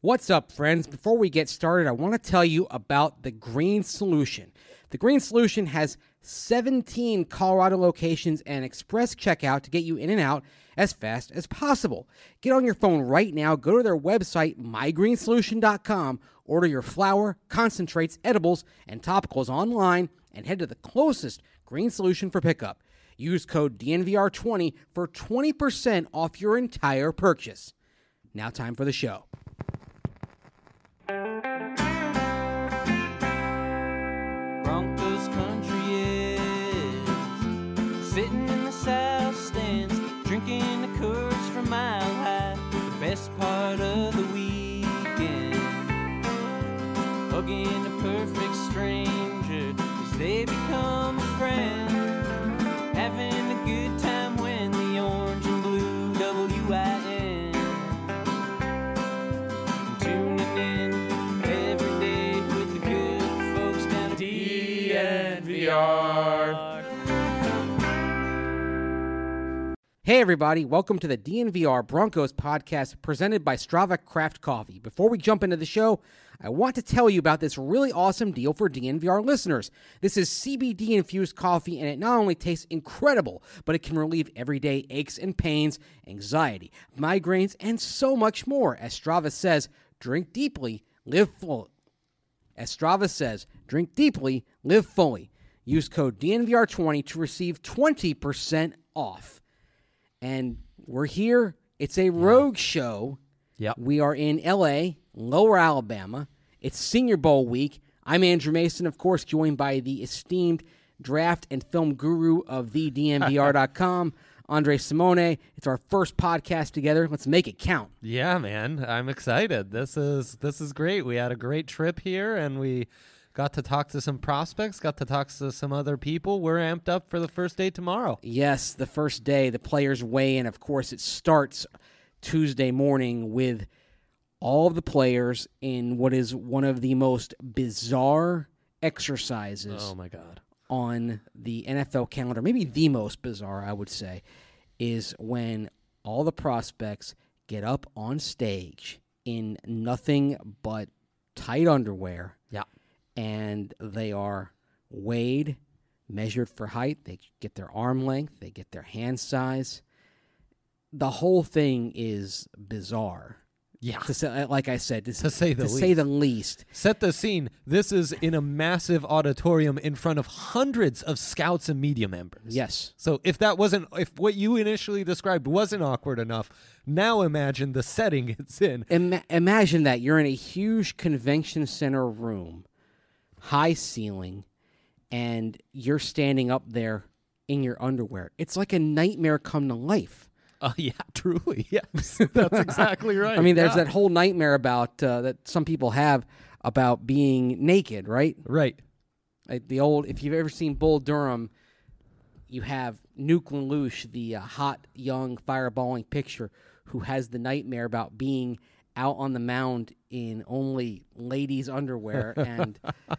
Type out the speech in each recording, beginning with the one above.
What's up, friends? Before we get started, I want to tell you about the Green Solution. The Green Solution has 17 Colorado locations and express checkout to get you in and out as fast as possible. Get on your phone right now, go to their website, mygreensolution.com, order your flour, concentrates, edibles, and topicals online, and head to the closest Green Solution for pickup. Use code DNVR20 for 20% off your entire purchase. Now time for the show. Broncos country is sitting in the south stands, drinking the Coors from Mile High. The best part of the weekend, hugging a perfect stranger as they become a friend, having a good time when the orange and blue WIN, tuning in every day with the good folks down at DNVR. Hey everybody, welcome to the DNVR Broncos podcast presented by Strava Craft Coffee. Before we jump into the show, I want to tell you about this really awesome deal for DNVR listeners. This is CBD-infused coffee, and it not only tastes incredible, but it can relieve everyday aches and pains, anxiety, migraines, and so much more. As Strava says, drink deeply, live full. As Strava says, drink deeply, live fully. Use code DNVR20 to receive 20% off. And we're here. It's a rogue show. Yep. We are in L.A., Lower Alabama. It's Senior Bowl week. I'm Andrew Mason, of course, joined by the esteemed draft and film guru of thednvr.com, Andre Simone. It's our first podcast together. Let's make it count. Yeah, man. I'm excited. This is great. We had a great trip here, and we got to talk to some prospects, got to talk to some other people. We're amped up for the first day tomorrow. Yes, the first day, the players weigh in. Of course, it starts Tuesday morning with all of the players in what is one of the most bizarre exercises Oh, my God. on the NFL calendar. Maybe the most bizarre, I would say, is when all the prospects get up on stage in nothing but tight underwear. Yeah. And they are weighed, measured for height. They get their arm length. They get their hand size. The whole thing is bizarre. Yeah. To say, like I said, To say the least. Set the scene. This is in a massive auditorium in front of hundreds of scouts and media members. Yes. So if what you initially described wasn't awkward enough, now imagine the setting it's in. Imagine that. You're in a huge convention center room, high ceiling, and you're standing up there in your underwear. It's like a nightmare come to life. Yeah, truly. Yes, that's exactly right. I mean, there's that whole nightmare about that some people have about being naked, right? Right. Like if you've ever seen Bull Durham, you have Nuke Lelouch, the hot, young, fireballing pitcher who has the nightmare about being out on the mound in only ladies' underwear and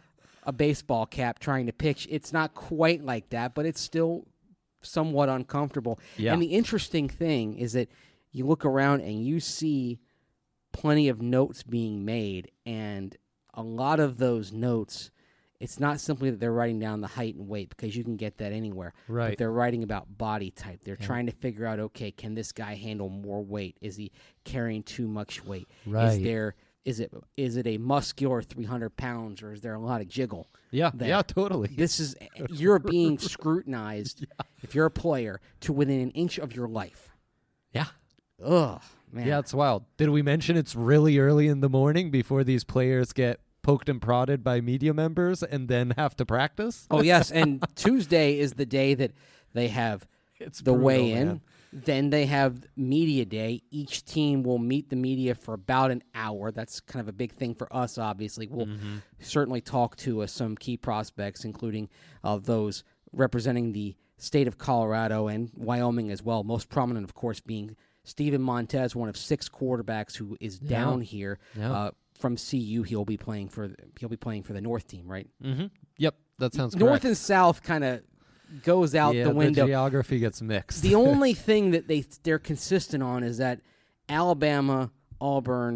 a baseball cap trying to pitch. It's not quite like that, but it's still somewhat uncomfortable. Yeah. And the interesting thing is that you look around and you see plenty of notes being made, and a lot of those notes, it's not simply that they're writing down the height and weight, because you can get that anywhere. Right. But they're writing about body type. They're trying to figure out, okay, can this guy handle more weight? Is he carrying too much weight? Right. Is it a muscular 300 pounds, or is there a lot of jiggle? Yeah, there? yeah, totally. You're being scrutinized if you're a player to within an inch of your life. Yeah. Ugh, man. Yeah, it's wild. Did we mention it's really early in the morning before these players get poked and prodded by media members and then have to practice? Oh, yes, and Tuesday is the day that they have It's the brutal, weigh-in. man. Then they have media day. Each team will meet the media for about an hour. That's kind of a big thing for us, obviously. We'll certainly talk to some key prospects, including those representing the state of Colorado and Wyoming as well. Most prominent, of course, being Steven Montez, one of 6 quarterbacks who is down here from CU. He'll be playing for the North team, right? Mm-hmm. Yep, that sounds North correct. and South kind of goes out the window. The geography gets mixed. The only thing that they're consistent on is that Alabama, Auburn,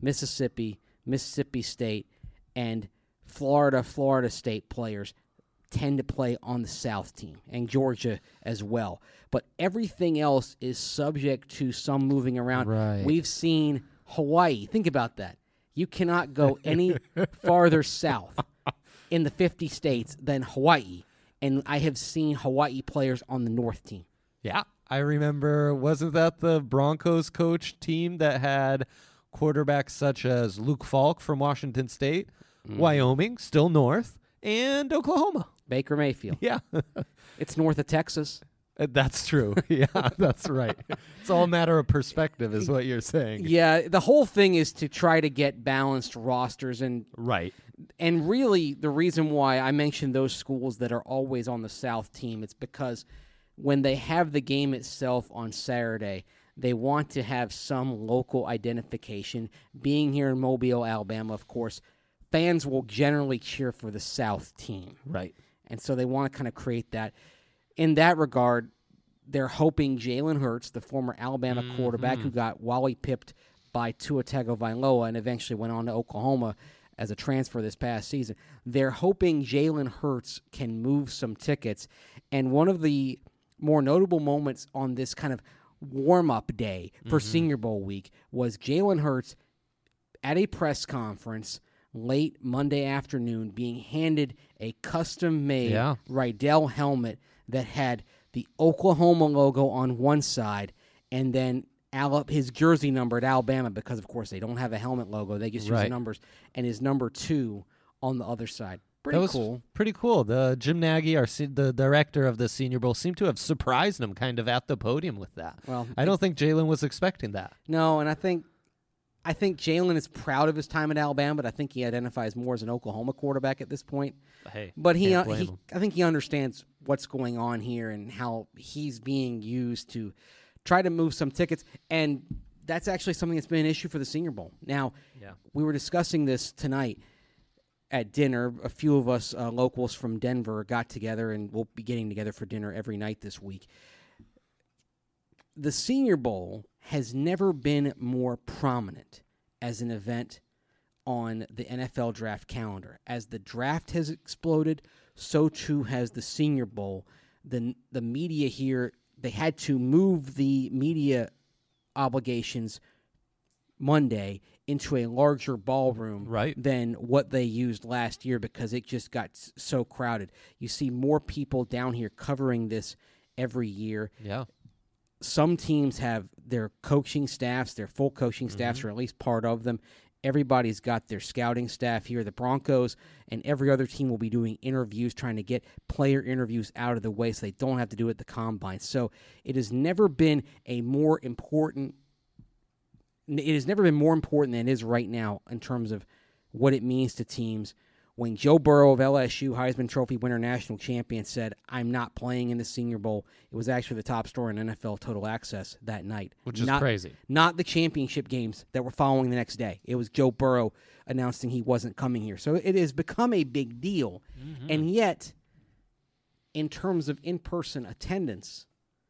Mississippi, Mississippi State, and Florida State players tend to play on the South team, and Georgia as well. But everything else is subject to some moving around. Right. We've seen Hawaii. Think about that. You cannot go any farther south in the 50 states than Hawaii, and I have seen Hawaii players on the North team. Yeah. I remember, wasn't that the Broncos coach team that had quarterbacks such as Luke Falk from Washington State, Wyoming, still north, and Oklahoma? Baker Mayfield. Yeah. It's north of Texas. That's true. Yeah, that's right. It's all a matter of perspective is what you're saying. Yeah, the whole thing is to try to get balanced rosters, and really the reason why I mentioned those schools that are always on the South team, it's because when they have the game itself on Saturday, they want to have some local identification. Being here in Mobile, Alabama, of course, fans will generally cheer for the South team. Right. And so they want to kind of create that. In that regard, they're hoping Jalen Hurts, the former Alabama quarterback who got Wally pipped by Tua Tagovailoa and eventually went on to Oklahoma as a transfer this past season, they're hoping Jalen Hurts can move some tickets. And one of the more notable moments on this kind of warm-up day for Senior Bowl week was Jalen Hurts at a press conference late Monday afternoon being handed a custom-made Rydell helmet that had the Oklahoma logo on one side and then his jersey number at Alabama, because, of course, they don't have a helmet logo. They just use the numbers, and his number 2 on the other side. Pretty cool. Pretty cool. The Jim Nagy, the director of the Senior Bowl, seemed to have surprised him kind of at the podium with that. Well, I don't think Jalen was expecting that. No, and I think Jalen is proud of his time at Alabama, but I think he identifies more as an Oklahoma quarterback at this point. Hey, but I think he understands what's going on here and how he's being used to try to move some tickets, and that's actually something that's been an issue for the Senior Bowl. Now, we were discussing this tonight at dinner. A few of us locals from Denver got together, and we'll be getting together for dinner every night this week. The Senior Bowl has never been more prominent as an event on the NFL draft calendar. As the draft has exploded, so too has the Senior Bowl. The media here, they had to move the media obligations Monday into a larger ballroom than what they used last year because it just got so crowded. You see more people down here covering this every year. Yeah. Some teams have their coaching staffs, their full coaching staffs, or at least part of them. Everybody's got their scouting staff here. The Broncos and every other team will be doing interviews, trying to get player interviews out of the way so they don't have to do it at the combine. So it has never been more important than it is right now in terms of what it means to teams. When Joe Burrow of LSU, Heisman Trophy winner, national champion, said, "I'm not playing in the Senior Bowl," it was actually the top story in NFL Total Access that night. Which is crazy. Not the championship games that were following the next day. It was Joe Burrow announcing he wasn't coming here. So it has become a big deal. And yet, in terms of in-person attendance,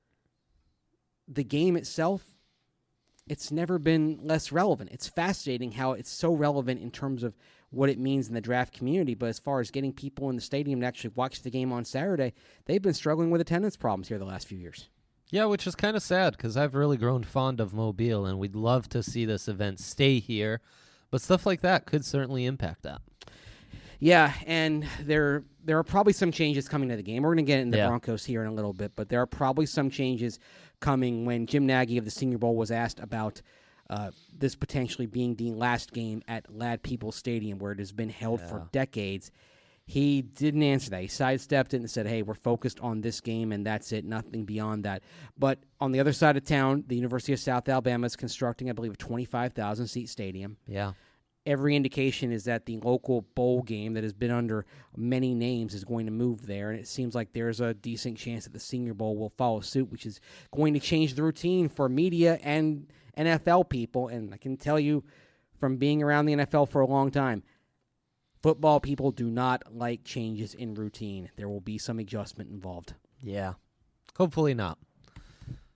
the game itself, it's never been less relevant. It's fascinating how it's so relevant in terms of what it means in the draft community, but as far as getting people in the stadium to actually watch the game on Saturday, they've been struggling with attendance problems here the last few years. Yeah, which is kind of sad because I've really grown fond of Mobile, and we'd love to see this event stay here, but stuff like that could certainly impact that. Yeah, and there are probably some changes coming to the game. We're going to get into the Broncos here in a little bit, but there are probably some changes coming. When Jim Nagy of the Senior Bowl was asked about this potentially being the last game at Lad Peoples Stadium, where it has been held for decades, he didn't answer that. He sidestepped it and said, hey, we're focused on this game, and that's it, nothing beyond that. But on the other side of town, the University of South Alabama is constructing, I believe, a 25,000-seat stadium. Yeah. Every indication is that the local bowl game that has been under many names is going to move there, and it seems like there's a decent chance that the Senior Bowl will follow suit, which is going to change the routine for media and NFL people. And I can tell you from being around the NFL for a long time, football people do not like changes in routine. There will be some adjustment involved. Yeah. Hopefully not.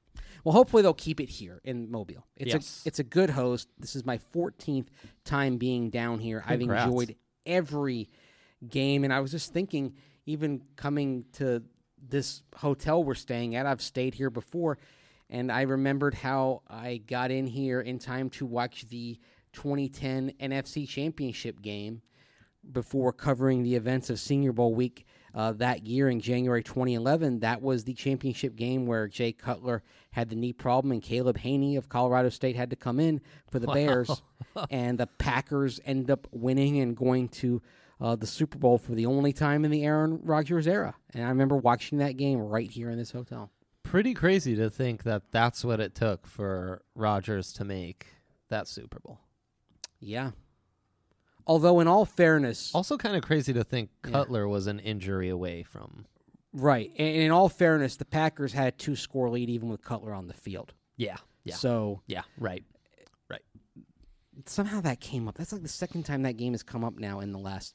Well, hopefully they'll keep it here in Mobile. Yes. It's a good host. This is my 14th time being down here. Congrats. I've enjoyed every game, and I was just thinking, even coming to this hotel we're staying at, I've stayed here before, and I remembered how I got in here in time to watch the 2010 NFC Championship game before covering the events of Senior Bowl week that year in January 2011. That was the championship game where Jay Cutler had the knee problem and Caleb Haney of Colorado State had to come in for the Bears, and the Packers ended up winning and going to the Super Bowl for the only time in the Aaron Rodgers era. And I remember watching that game right here in this hotel. Pretty crazy to think that that's what it took for Rodgers to make that Super Bowl. Yeah. Although, in all fairness... Also kind of crazy to think Cutler was an injury away from... Right. And in all fairness, the Packers had a 2-score lead even with Cutler on the field. Yeah. So... Yeah, right. Somehow that came up. That's like the second time that game has come up now in the last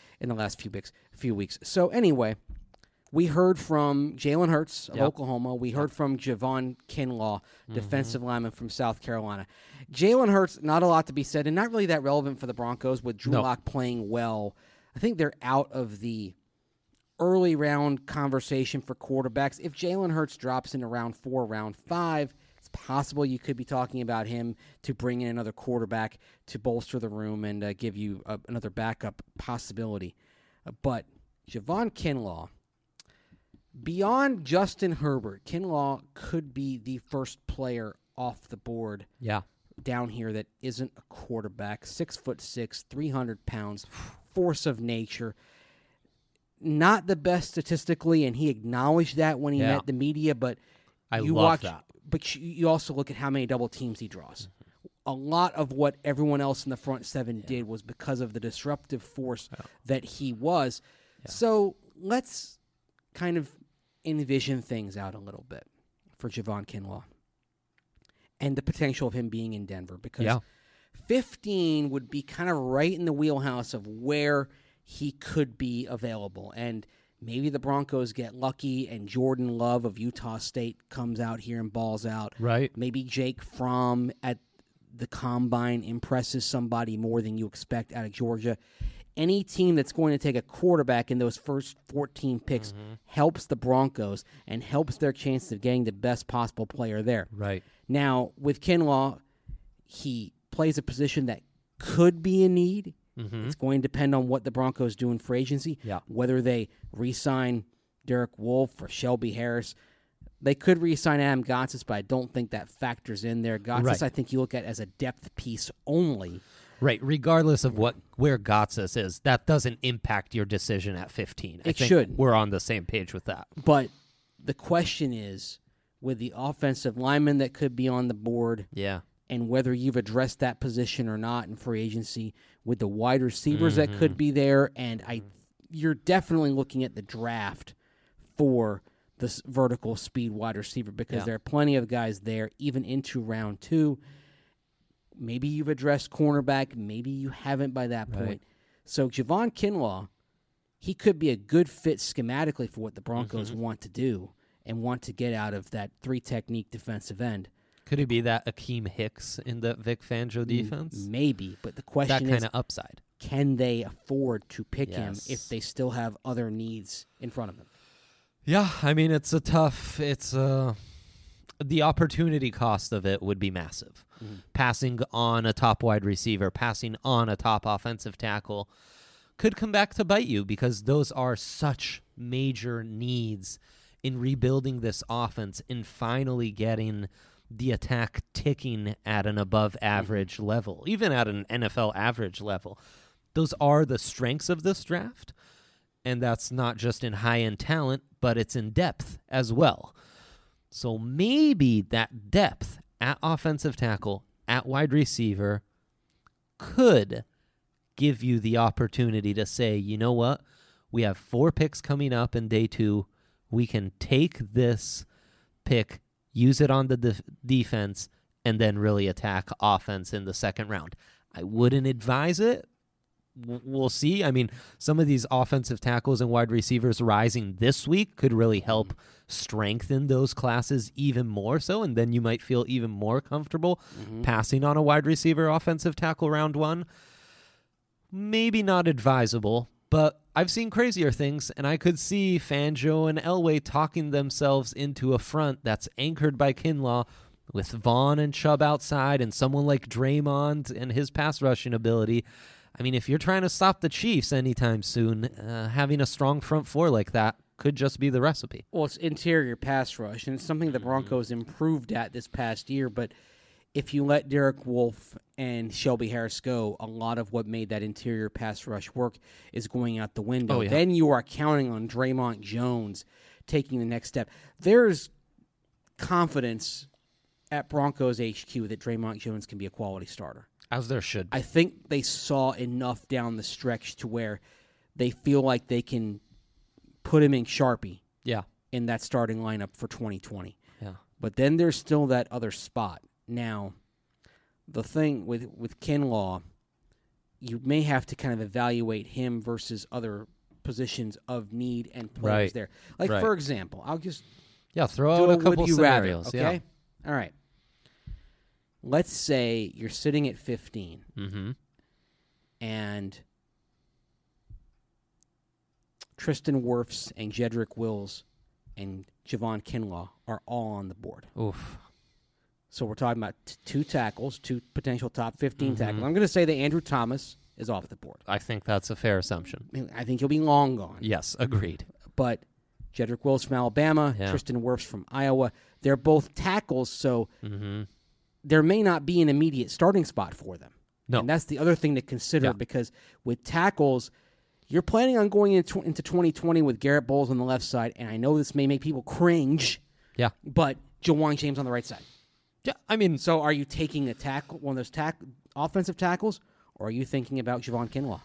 few weeks. So anyway, we heard from Jalen Hurts of Oklahoma. We heard from Javon Kinlaw, defensive lineman from South Carolina. Jalen Hurts, not a lot to be said, and not really that relevant for the Broncos with Drew Lock playing well. I think they're out of the early round conversation for quarterbacks. If Jalen Hurts drops into round 4, round 5, it's possible you could be talking about him to bring in another quarterback to bolster the room and give you another backup possibility. But Javon Kinlaw, beyond Justin Herbert, Kinlaw could be the first player off the board down here that isn't a quarterback. 6'6", 300 pounds, force of nature. Not the best statistically, and he acknowledged that when he met the media, but I love that. But you also look at how many double teams he draws. A lot of what everyone else in the front seven did was because of the disruptive force that he was. Yeah. So let's kind of envision things out a little bit for Javon Kinlaw and the potential of him being in Denver, because 15 would be kind of right in the wheelhouse of where he could be available. And maybe the Broncos get lucky and Jordan Love of Utah State comes out here and balls out. Right. Maybe Jake Fromm at the Combine impresses somebody more than you expect out of Georgia. Any team that's going to take a quarterback in those first 14 picks helps the Broncos and helps their chances of getting the best possible player there. Right. Now, with Kinlaw, he plays a position that could be a need. It's going to depend on what the Broncos do in free agency, whether they re-sign Derek Wolfe or Shelby Harris. They could re-sign Adam Gotsis, but I don't think that factors in there. Gotsis, I think you look at as a depth piece only. Right, regardless of where Gotsis is, that doesn't impact your decision at 15. I think should. We're on the same page with that. But the question is, with the offensive lineman that could be on the board, and whether you've addressed that position or not in free agency, with the wide receivers that could be there, and you're definitely looking at the draft for this vertical speed wide receiver, because there are plenty of guys there, even into round 2. Maybe you've addressed cornerback, maybe you haven't by that point. So Javon Kinlaw, he could be a good fit schematically for what the Broncos want to do and want to get out of that 3-technique defensive end. Could he be that Akeem Hicks in the Vic Fangio defense? Maybe, but the question is... That kind of upside. Can they afford to pick him if they still have other needs in front of them? Yeah, I mean, it's a tough... The opportunity cost of it would be massive. Passing on a top wide receiver, passing on a top offensive tackle could come back to bite you, because those are such major needs in rebuilding this offense and finally getting the attack ticking at an above-average level, even at an NFL average level. Those are the strengths of this draft, and that's not just in high-end talent, but it's in depth as well. So maybe that depth at offensive tackle, at wide receiver, could give you the opportunity to say, you know what, we have 4 picks coming up in day 2. We can take this pick, use it on the defense, and then really attack offense in the second round. I wouldn't advise it, we'll see. I mean, some of these offensive tackles and wide receivers rising this week could really help strengthen those classes even more so, and then you might feel even more comfortable passing on a wide receiver offensive tackle round 1. Maybe not advisable, but I've seen crazier things, and I could see Fangio and Elway talking themselves into a front that's anchored by Kinlaw, with Vaughn and Chubb outside and someone like Draymond and his pass rushing ability. I mean, if you're trying to stop the Chiefs anytime soon, having a strong front four like that could just be the recipe. Well, it's interior pass rush, and it's something the Broncos improved at this past year, but if you let Derek Wolfe and Shelby Harris go, a lot of what made that interior pass rush work is going out the window. Oh, yeah. Then you are counting on Draymond Jones taking the next step. There's confidence at Broncos HQ that Draymond Jones can be a quality starter. As there should be. I think they saw enough down the stretch to where they feel like they can put him in Sharpie in that starting lineup for 2020. Yeah. But then there's still that other spot. Now, the thing with Kinlaw, you may have to kind of evaluate him versus other positions of need and players there. Like, for example, I'll just throw do out a couple would you scenarios. rather, okay? All right. Let's say you're sitting at 15, and Tristan Wirfs and Jedrick Wills and Javon Kinlaw are all on the board. Oof. So we're talking about 2 tackles, 2 potential top 15 tackles. I'm going to say that Andrew Thomas is off the board. I think that's a fair assumption. I think he'll be long gone. Yes, agreed. But Jedrick Wills from Alabama, Tristan Wirfs from Iowa, they're both tackles, so there may not be an immediate starting spot for them. No. And that's the other thing to consider because with tackles, you're planning on going into 2020 with Garrett Bowles on the left side, and I know this may make people cringe, but Jawan James on the right side. Yeah, I mean, so are you taking a tackle, one of those offensive tackles, or are you thinking about Javon Kinlaw?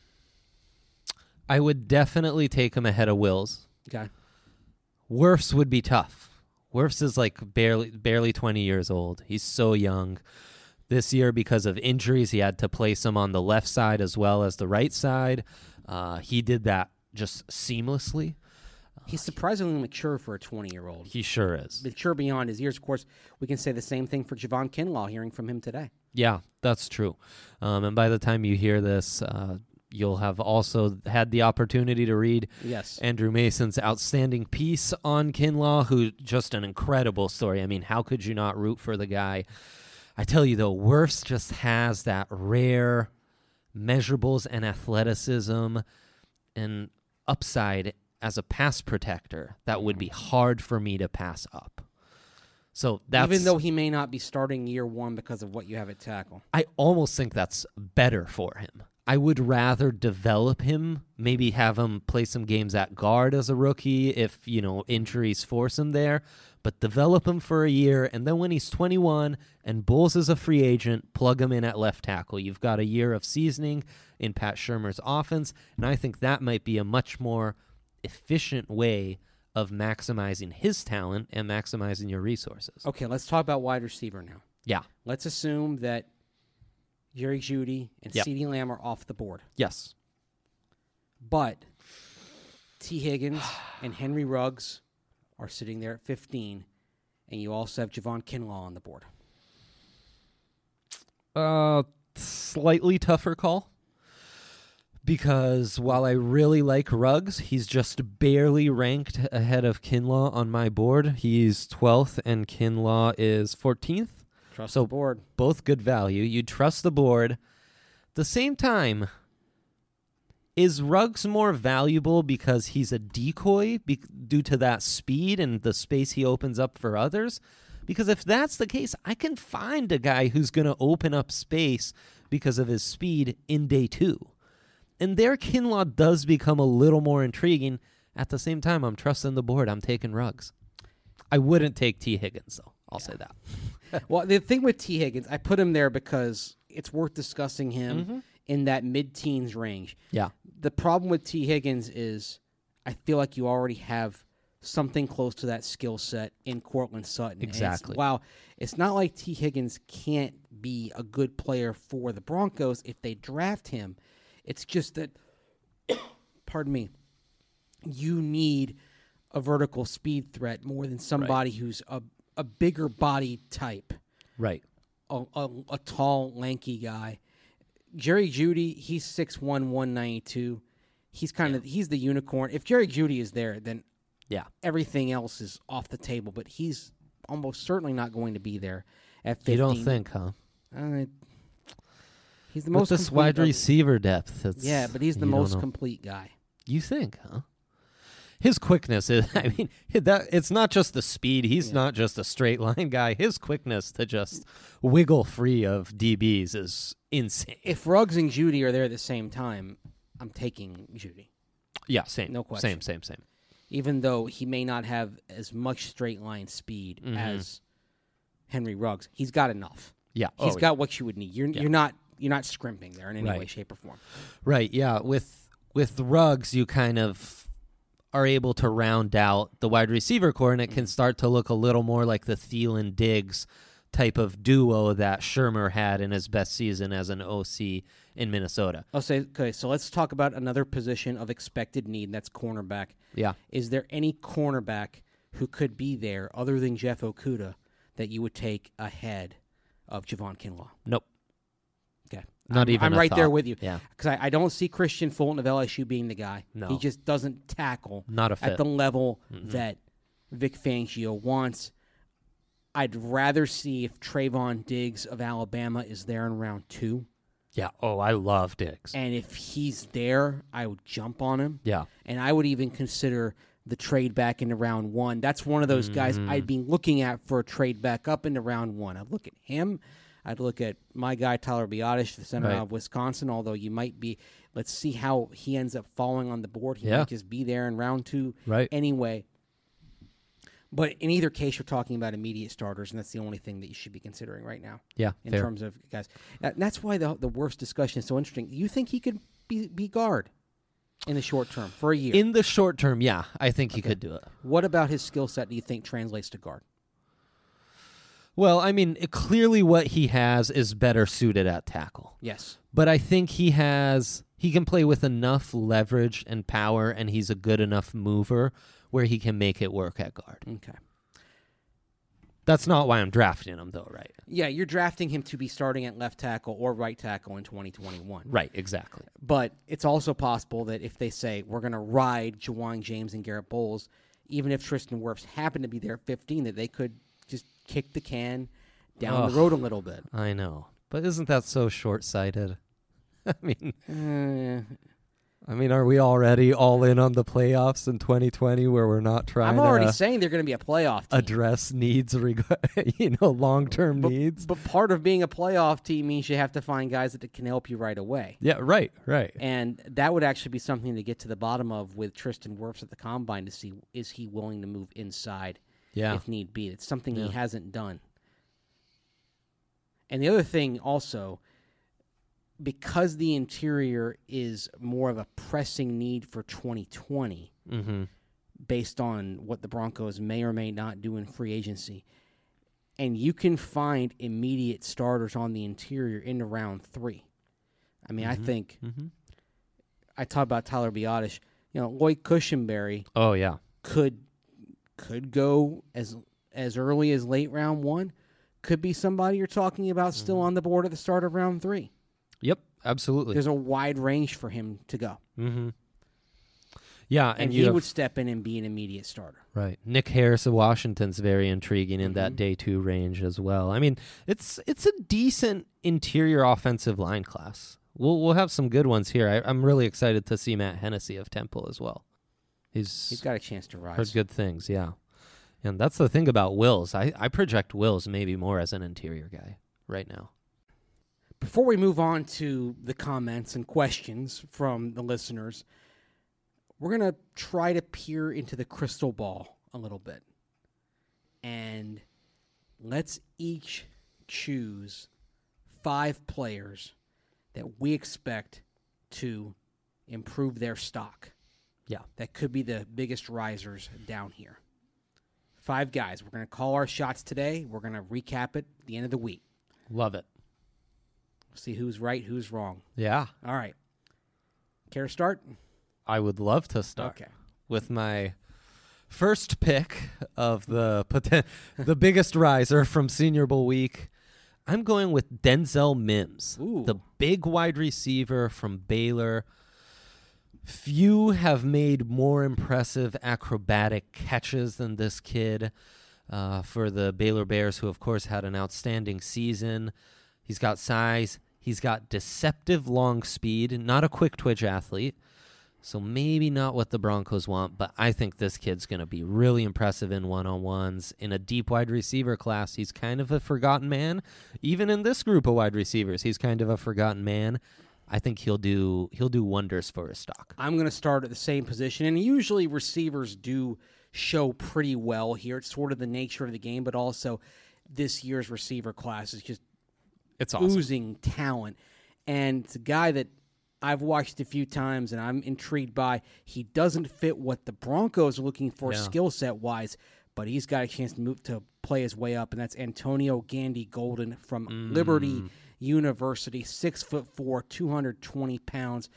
I would definitely take him ahead of Wills. Okay. Wirfs would be tough. Wirfs is like barely 20 years old. He's so young. This year, because of injuries, he had to place him on the left side as well as the right side. He did that just seamlessly. He's surprisingly mature for a 20-year-old. He sure is. Mature beyond his years. Of course, we can say the same thing for Javon Kinlaw, hearing from him today. Yeah, that's true. And by the time you hear this, you'll have also had the opportunity to read Andrew Mason's outstanding piece on Kinlaw, who just an incredible story. I mean, how could you not root for the guy? I tell you, though, Wirfs just has that rare measurables and athleticism and upside as a pass protector that would be hard for me to pass up. So that's, even though he may not be starting year 1 because of what you have at tackle. I almost think that's better for him. I would rather develop him, maybe have him play some games at guard as a rookie if, injuries force him there, but develop him for a year, and then when he's 21 and Bowles is a free agent, plug him in at left tackle. You've got a year of seasoning in Pat Shurmur's offense, and I think that might be a much more efficient way of maximizing his talent and maximizing your resources. Okay, let's talk about wide receiver now. Yeah. Let's assume that Jerry Jeudy and CeeDee Lamb are off the board. Yes. But T. Higgins and Henry Ruggs are sitting there at 15, and you also have Javon Kinlaw on the board. Slightly tougher call. Because while I really like Ruggs, he's just barely ranked ahead of Kinlaw on my board. He's 12th, and Kinlaw is 14th. Trust the board. Both good value. You trust the board. At the same time, is Ruggs more valuable because he's a decoy due to that speed and the space he opens up for others? Because if that's the case, I can find a guy who's going to open up space because of his speed in day 2. And there, Kinlaw does become a little more intriguing. At the same time, I'm trusting the board. I'm taking Ruggs. I wouldn't take T. Higgins, though. I'll say that. Well, the thing with T. Higgins, I put him there because it's worth discussing him in that mid-teens range. Yeah. The problem with T. Higgins is I feel like you already have something close to that skill set in Courtland Sutton. Exactly. It's not like T. Higgins can't be a good player for the Broncos if they draft him. It's just that, pardon me, you need a vertical speed threat more than somebody who's a bigger body type. Right. A tall, lanky guy. Jerry Jeudy, he's 6'1", 192. He's he's the unicorn. If Jerry Jeudy is there, then everything else is off the table. But he's almost certainly not going to be there at 15. You don't think, huh? He's the most With this wide receiver depth. But he's the most complete guy. You think, huh? His quickness is, I mean, it's not just the speed. He's not just a straight line guy. His quickness to just wiggle free of DBs is insane. If Ruggs and Jeudy are there at the same time, I'm taking Jeudy. Yeah, same. No question. Same. Even though he may not have as much straight line speed as Henry Ruggs, he's got enough. Yeah. He's got what you would need. You're not scrimping there in any way, shape, or form. Right, yeah. With Ruggs, you kind of are able to round out the wide receiver core, and it can start to look a little more like the Thielen-Diggs type of duo that Shermer had in his best season as an OC in Minnesota. Okay, so let's talk about another position of expected need, and that's cornerback. Yeah. Is there any cornerback who could be there other than Jeff Okudah that you would take ahead of Javon Kinlaw? Nope. Okay. I'm right there with you. Yeah. Because I don't see Christian Fulton of LSU being the guy. No. He just doesn't tackle Not a fit. at the level that Vic Fangio wants. I'd rather see if Trayvon Diggs of Alabama is there in round 2. Yeah. Oh, I love Diggs. And if he's there, I would jump on him. Yeah. And I would even consider the trade back into round 1. That's one of those guys I'd be looking at for a trade back up into round 1. I'd look at him. I'd look at my guy, Tyler Biotish, the center of Wisconsin, although you might be – let's see how he ends up falling on the board. He might just be there in round 2 anyway. But in either case, you're talking about immediate starters, and that's the only thing that you should be considering right now. Yeah, in terms of guys. And that's why the worst discussion is so interesting. You think he could be guard in the short term for a year? In the short term, yeah, I think he could do it. What about his skill set do you think translates to guard? Well, I mean, clearly what he has is better suited at tackle. Yes. But I think he can play with enough leverage and power, and he's a good enough mover where he can make it work at guard. Okay. That's not why I'm drafting him, though, right? Yeah, you're drafting him to be starting at left tackle or right tackle in 2021. Right, exactly. But it's also possible that if they say, we're going to ride Ja'Wuan James and Garrett Bowles, even if Tristan Wirfs happen to be there at 15, that they could just kick the can down the road a little bit. I know. But isn't that so short-sighted? I mean, are we already all in on the playoffs in 2020 where we're not trying I'm already saying they're going to be a playoff team. Address needs, long-term needs. But part of being a playoff team means you have to find guys that can help you right away. Yeah, right. And that would actually be something to get to the bottom of with Tristan Wirfs at the Combine to see, is he willing to move inside if need be. It's something he hasn't done. And the other thing also, because the interior is more of a pressing need for 2020, based on what the Broncos may or may not do in free agency, and you can find immediate starters on the interior into round 3. I mean, I think I talk about Tyler Biotish. Lloyd Cushenberry. Oh yeah, could go as early as late round 1. Could be somebody you're talking about still on the board at the start of round 3. Yep, absolutely. There's a wide range for him to go. Yeah, and he would step in and be an immediate starter. Right. Nick Harris of Washington's very intriguing in that day 2 range as well. I mean, it's a decent interior offensive line class. We'll have some good ones here. I'm really excited to see Matt Hennessy of Temple as well. He's got a chance to rise. Heard good things, yeah. And that's the thing about Wills. I project Wills maybe more as an interior guy right now. Before we move on to the comments and questions from the listeners, we're going to try to peer into the crystal ball a little bit. And let's each choose 5 players that we expect to improve their stock. Yeah. That could be the biggest risers down here. 5 guys. We're going to call our shots today. We're going to recap it at the end of the week. Love it. See who's right, who's wrong. Yeah. All right. Care to start? I would love to start Okay. with my first pick of the biggest riser from Senior Bowl week. I'm going with Denzel Mims, Ooh. the big wide receiver from Baylor. Few have made more impressive acrobatic catches than this kid for the Baylor Bears, who, of course, had an outstanding season. He's got size. He's got deceptive long speed, not a quick twitch athlete. So maybe not what the Broncos want, but I think this kid's going to be really impressive in one-on-ones. In a deep wide receiver class, he's kind of a forgotten man. Even in this group of wide receivers, he's kind of a forgotten man. I think he'll do wonders for his stock. I'm going to start at the same position, and usually receivers do show pretty well here. It's sort of the nature of the game, but also this year's receiver class is just It's awesome. oozing talent. And it's a guy that I've watched a few times, and I'm intrigued by. He doesn't fit what the Broncos are looking for skill set wise, but he's got a chance to move to play his way up, and that's Antonio Gandy Golden from Liberty University, 6'4", 220 pounds,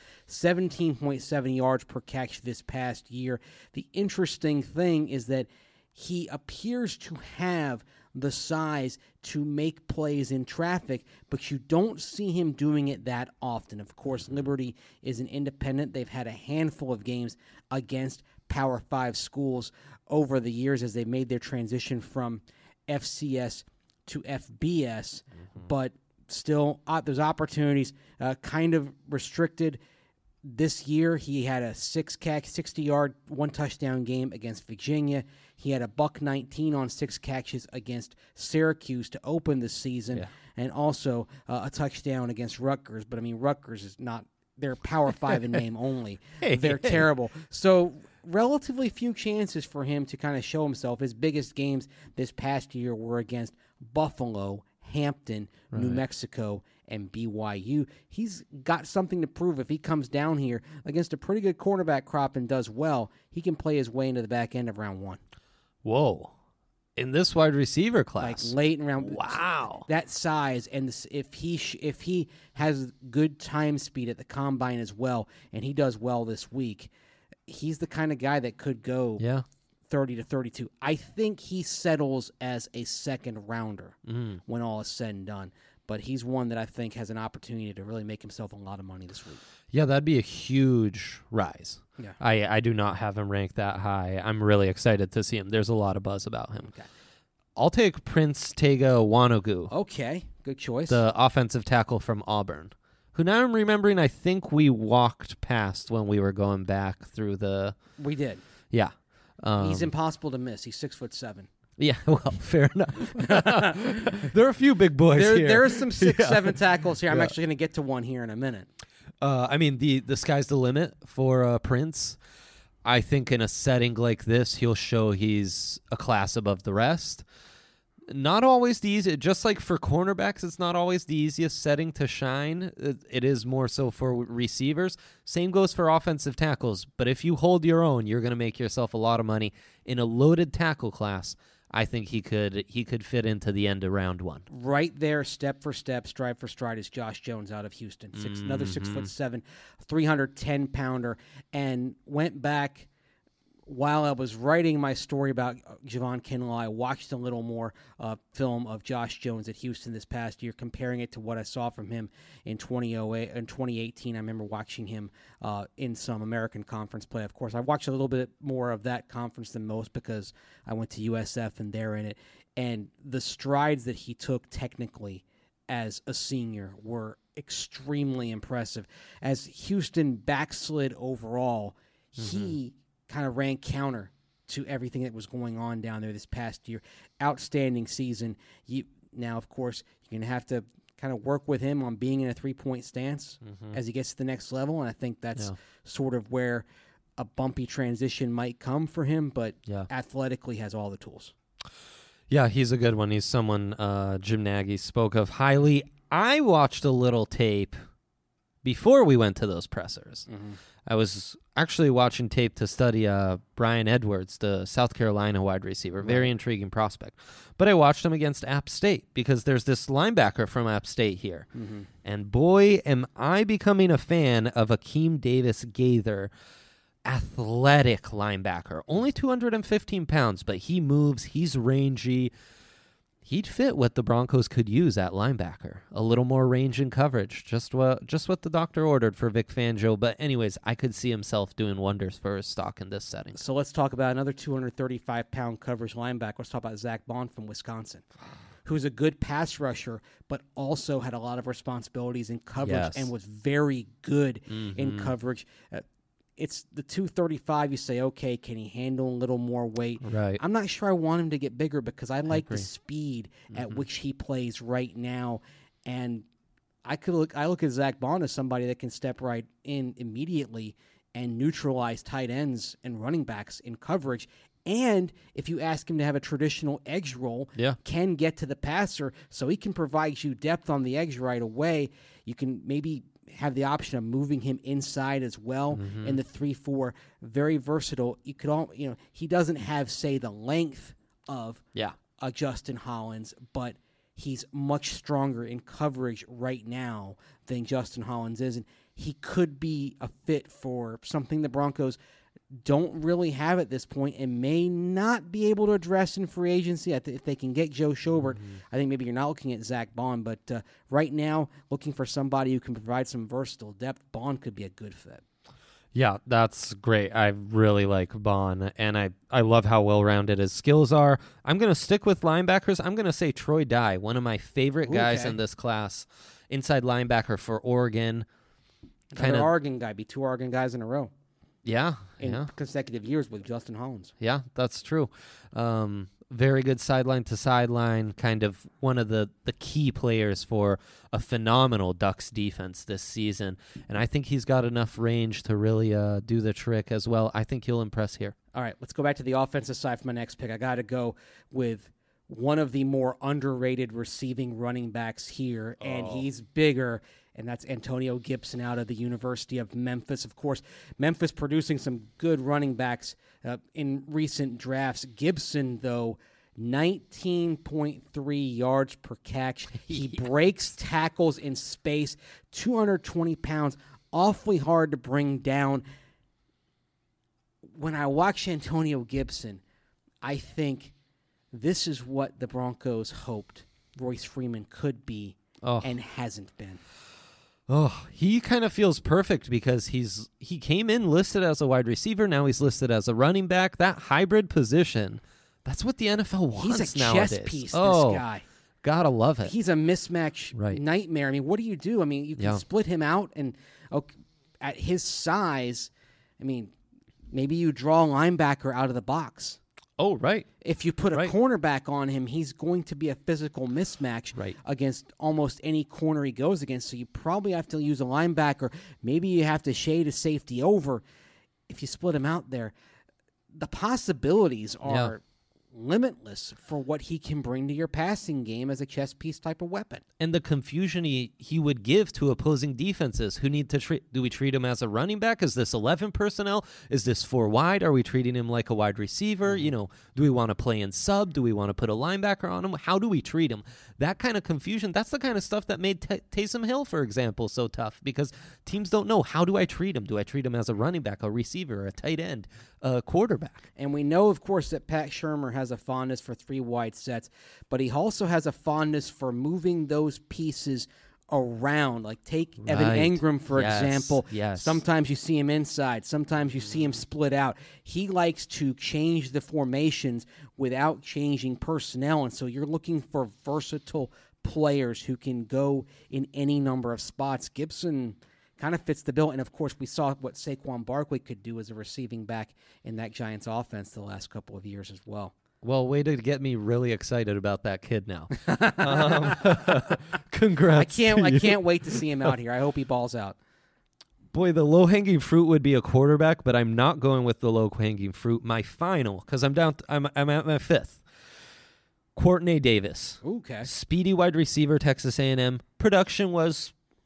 17.7 yards per catch this past year. The interesting thing is that he appears to have the size to make plays in traffic, but you don't see him doing it that often. Of course, Liberty is an independent. They've had a handful of games against Power 5 schools over the years as they made their transition from FCS to FBS, but still there's opportunities, kind of restricted. This year, he had a 60-yard, 1-touchdown game against Virginia. He had a $119 on 6 catches against Syracuse to open the season, and also a touchdown against Rutgers. But, I mean, Rutgers is not – they're Power 5 in name only. They're terrible. So, relatively few chances for him to kind of show himself. His biggest games this past year were against Buffalo, Hampton, New Mexico, and BYU. He's got something to prove. If he comes down here against a pretty good cornerback crop and does well, he can play his way into the back end of round 1. Whoa. In this wide receiver class. Like late in round. Wow. That size, and if he has good time speed at the combine as well, and he does well this week, he's the kind of guy that could go 30 to 32. I think he settles as a second rounder when all is said and done. But he's one that I think has an opportunity to really make himself a lot of money this week. Yeah, that'd be a huge rise. Yeah. I do not have him ranked that high. I'm really excited to see him. There's a lot of buzz about him. Okay. I'll take Prince Tega Wanogwu, Okay, good choice. the offensive tackle from Auburn, who now I'm remembering I think we walked past when we were going back through the... We did. Yeah. He's impossible to miss. He's 6'7". Yeah, well, fair enough. There are a few big boys here. There are some 6'7" tackles here. I'm actually going to get to one here in a minute. I mean, the sky's the limit for Prince. I think in a setting like this, he'll show he's a class above the rest. Not always the easy, just like for cornerbacks, it's not always the easiest setting to shine. It is more so for receivers. Same goes for offensive tackles. But if you hold your own, you're going to make yourself a lot of money. In a loaded tackle class, I think he could fit into the end of round 1. Right there, step for step, stride for stride, is Josh Jones out of Houston. Another 6'7", 310-pounder, and went back. While I was writing my story about Javon Kinlaw, I watched a little more film of Josh Jones at Houston this past year, comparing it to what I saw from him in 2008 and 2018. I remember watching him in some American Conference play. Of course, I watched a little bit more of that conference than most because I went to USF and they're in it. And the strides that he took technically as a senior were extremely impressive. As Houston backslid overall, he kind of ran counter to everything that was going on down there this past year. Outstanding season. Now, of course, you're going to have to kind of work with him on being in a 3-point stance as he gets to the next level, and I think that's sort of where a bumpy transition might come for him, but athletically has all the tools. Yeah, he's a good one. He's someone Jim Nagy spoke of highly. I watched a little tape before we went to those pressers. I was actually watching tape to study Brian Edwards, the South Carolina wide receiver. Very intriguing prospect. But I watched him against App State because there's this linebacker from App State here. And boy, am I becoming a fan of Akeem Davis-Gaither, athletic linebacker. Only 215 pounds, but he moves. He's rangy. He'd fit what the Broncos could use at linebacker. A little more range and coverage. Just what the doctor ordered for Vic Fangio. But anyways, I could see himself doing wonders for his stock in this setting. So let's talk about another 235-pound coverage linebacker. Let's talk about Zach Bond from Wisconsin, who's a good pass rusher, but also had a lot of responsibilities in coverage and was very good in coverage. It's the 235. You say, okay, can he handle a little more weight? Right. I'm not sure I want him to get bigger because I like the speed at which he plays right now. And I look at Zach Bond as somebody that can step right in immediately and neutralize tight ends and running backs in coverage. And if you ask him to have a traditional edge roll, can get to the passer, so he can provide you depth on the edge right away. You can maybe have the option of moving him inside as well in the 3-4. Very versatile. You could he doesn't have, say, the length of a Justin Hollins, but he's much stronger in coverage right now than Justin Hollins is, and he could be a fit for something the Broncos don't really have at this point and may not be able to address in free agency. If they can get Joe Schobert, I think maybe you're not looking at Zach Bond, but right now, looking for somebody who can provide some versatile depth, Bond could be a good fit. Yeah, that's great. I really like Bond, and I love how well-rounded his skills are. I'm going to stick with linebackers. I'm going to say Troy Dye, one of my favorite guys in this class, inside linebacker for Oregon. Another Oregon guy, be 2 Oregon guys in a row. Yeah. In consecutive years with Justin Hollins. Yeah, that's true. Very good sideline to sideline, kind of one of the key players for a phenomenal Ducks defense this season. And I think he's got enough range to really do the trick as well. I think he'll impress here. All right, let's go back to the offensive side for my next pick. I got to go with one of the more underrated receiving running backs here, and he's bigger, and that's Antonio Gibson out of the University of Memphis. Of course, Memphis producing some good running backs in recent drafts. Gibson, though, 19.3 yards per catch. He breaks tackles in space, 220 pounds, awfully hard to bring down. When I watch Antonio Gibson, I think this is what the Broncos hoped Royce Freeman could be and hasn't been. Oh, he kind of feels perfect because he came in listed as a wide receiver. Now he's listed as a running back. That hybrid position, that's what the NFL wants nowadays. He's a chess piece, this guy. Gotta love it. He's a mismatch nightmare. I mean, what do you do? I mean, you can split him out, and at his size, I mean, maybe you draw a linebacker out of the box. Oh, right. If you put a cornerback on him, he's going to be a physical mismatch against almost any corner he goes against. So you probably have to use a linebacker. Maybe you have to shade a safety over. If you split him out there, the possibilities are limitless for what he can bring to your passing game as a chess piece type of weapon. And the confusion he would give to opposing defenses who need to do we treat him as a running back? Is this 11 personnel? Is this 4 wide? Are we treating him like a wide receiver? You know, do we want to play in sub? Do we want to put a linebacker on him? How do we treat him? That kind of confusion, that's the kind of stuff that made Taysom Hill, for example, so tough because teams don't know, how do I treat him? Do I treat him as a running back, a receiver, a tight end, a quarterback? And we know, of course, that Pat Shurmur has a fondness for 3 wide sets, but he also has a fondness for moving those pieces around. Like take Evan Engram, for example. Yes. Sometimes you see him inside. Sometimes you see him split out. He likes to change the formations without changing personnel, and so you're looking for versatile players who can go in any number of spots. Gibson kind of fits the bill, and of course we saw what Saquon Barkley could do as a receiving back in that Giants offense the last couple of years as well. Well, way to get me really excited about that kid now. Congrats. I can't wait to see him out here. I hope he balls out. Boy, the low-hanging fruit would be a quarterback, but I'm not going with the low-hanging fruit. My final, because I'm at my 5th. Courtney Davis. Okay. Speedy wide receiver, Texas A&M. Production was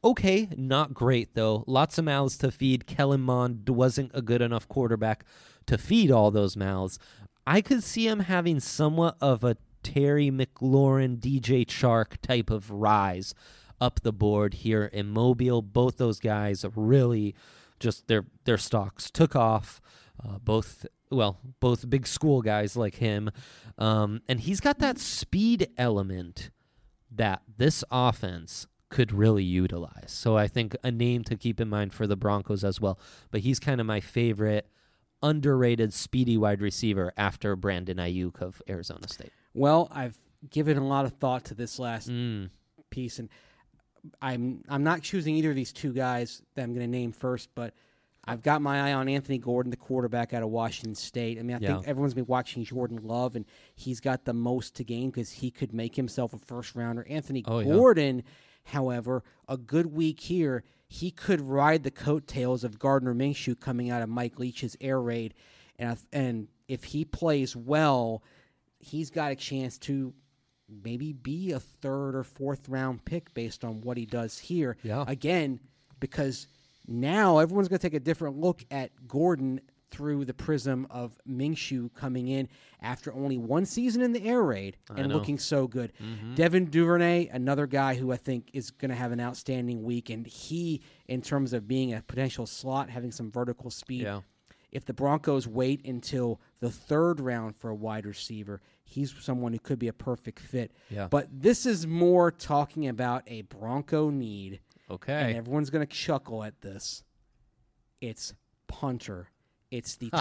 Okay, not great, though. Lots of mouths to feed. Kellen Mond wasn't a good enough quarterback to feed all those mouths. I could see him having somewhat of a Terry McLaurin, DJ Chark type of rise up the board here in Mobile. Both those guys really just their stocks took off. Both big school guys like him. And he's got that speed element that this offense could really utilize. So I think a name to keep in mind for the Broncos as well. But he's kind of my favorite underrated speedy wide receiver after Brandon Ayuk of Arizona State. Well, I've given a lot of thought to this last piece, and I'm not choosing either of these two guys that I'm going to name first, but I've got my eye on Anthony Gordon, the quarterback out of Washington State. I mean, I think everyone's been watching Jordan Love, and he's got the most to gain because he could make himself a first-rounder. Anthony Gordon, however, a good week here, he could ride the coattails of Gardner Minshew coming out of Mike Leach's air raid, and if he plays well, he's got a chance to maybe be a third or fourth round pick based on what he does here. Yeah. Again, because now everyone's going to take a different look at Gordon through the prism of Minshew coming in after only one season in the air raid and looking so good. Mm-hmm. Devin Duvernay, another guy who I think is going to have an outstanding week, and he, in terms of being a potential slot, having some vertical speed, if the Broncos wait until the third round for a wide receiver, he's someone who could be a perfect fit. Yeah. But this is more talking about a Bronco need. Okay. And everyone's going to chuckle at this. It's punter. It's the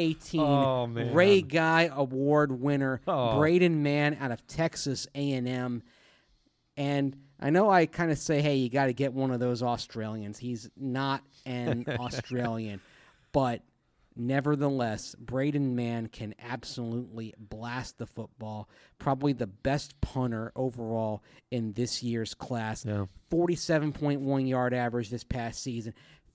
2018 Ray Guy Award winner, Braden Mann out of Texas A&M. And I know I kind of say, hey, you got to get one of those Australians. He's not an Australian. But nevertheless, Braden Mann can absolutely blast the football. Probably the best punter overall in this year's class. Yeah. 47.1 yard average this past season.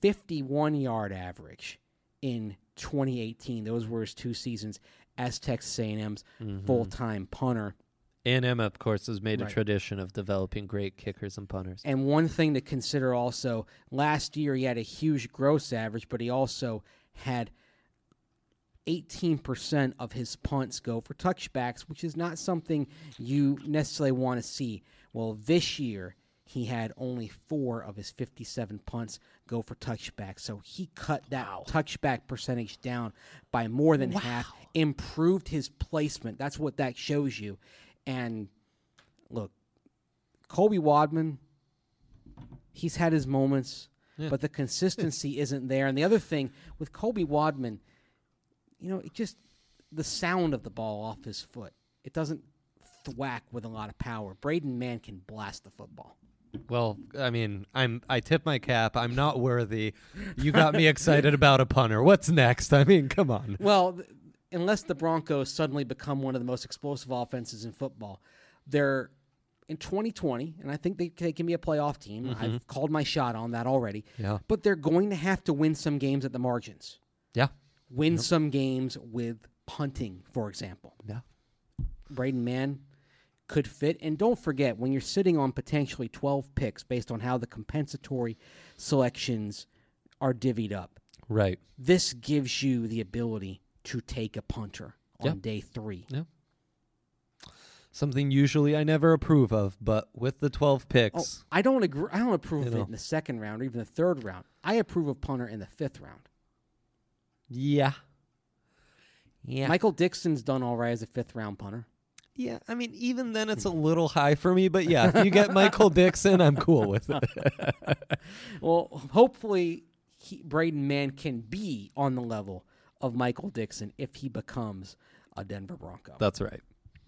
51 yard average in 2018. Those were his 2 seasons as Texas A&M's full-time punter. A&M, of course, has made a tradition of developing great kickers and punters. And one thing to consider also, last year he had a huge gross average, but he also had 18% of his punts go for touchbacks, which is not something you necessarily want to see. Well, this year, he had only 4 of his 57 punts go for touchbacks. So he cut that touchback percentage down by more than half, improved his placement. That's what that shows you. And look, Colby Wadman, he's had his moments, but the consistency isn't there. And the other thing with Colby Wadman, it just the sound of the ball off his foot. It doesn't thwack with a lot of power. Braden Mann can blast the football. Well, I mean, I tip my cap. I'm not worthy. You got me excited about a punter. What's next? I mean, come on. Well, unless the Broncos suddenly become one of the most explosive offenses in football, they're in 2020, and I think they can be a playoff team. Mm-hmm. I've called my shot on that already. Yeah. But they're going to have to win some games at the margins. Yeah. Win some games with punting, for example. Yeah. Braden Mann could fit. And don't forget, when you're sitting on potentially 12 picks based on how the compensatory selections are divvied up, right? This gives you the ability to take a punter on day 3. Yeah. Something usually I never approve of, but with the 12 picks. I don't agree. I don't approve of it in the second round or even the third round. I approve of punter in the 5th round. Yeah. Michael Dixon's done all right as a 5th round punter. Yeah, I mean, even then it's a little high for me, but yeah, if you get Michael Dixon, I'm cool with it. Well, hopefully Braden Mann can be on the level of Michael Dixon if he becomes a Denver Bronco. That's right.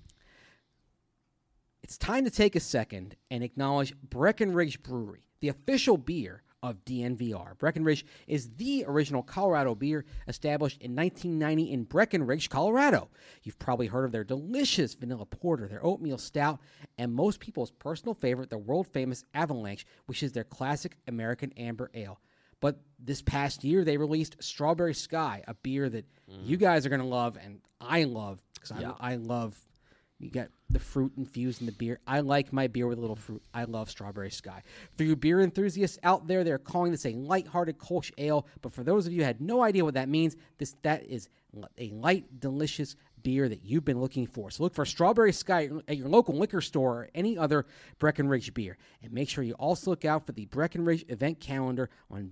It's time to take a second and acknowledge Breckenridge Brewery, the official beer of DNVR. Breckenridge is the original Colorado beer established in 1990 in Breckenridge, Colorado. You've probably heard of their delicious vanilla porter, their oatmeal stout, and most people's personal favorite, the world-famous Avalanche, which is their classic American amber ale. But this past year, they released Strawberry Sky, a beer that you guys are going to love and I love because I love You got the fruit infused in the beer. I like my beer with a little fruit. I love Strawberry Sky. For you beer enthusiasts out there, they're calling this a lighthearted Kolsch ale. But for those of you who had no idea what that means, that is a light, delicious beer that you've been looking for. So look for Strawberry Sky at your local liquor store or any other Breckenridge beer. And make sure you also look out for the Breckenridge event calendar on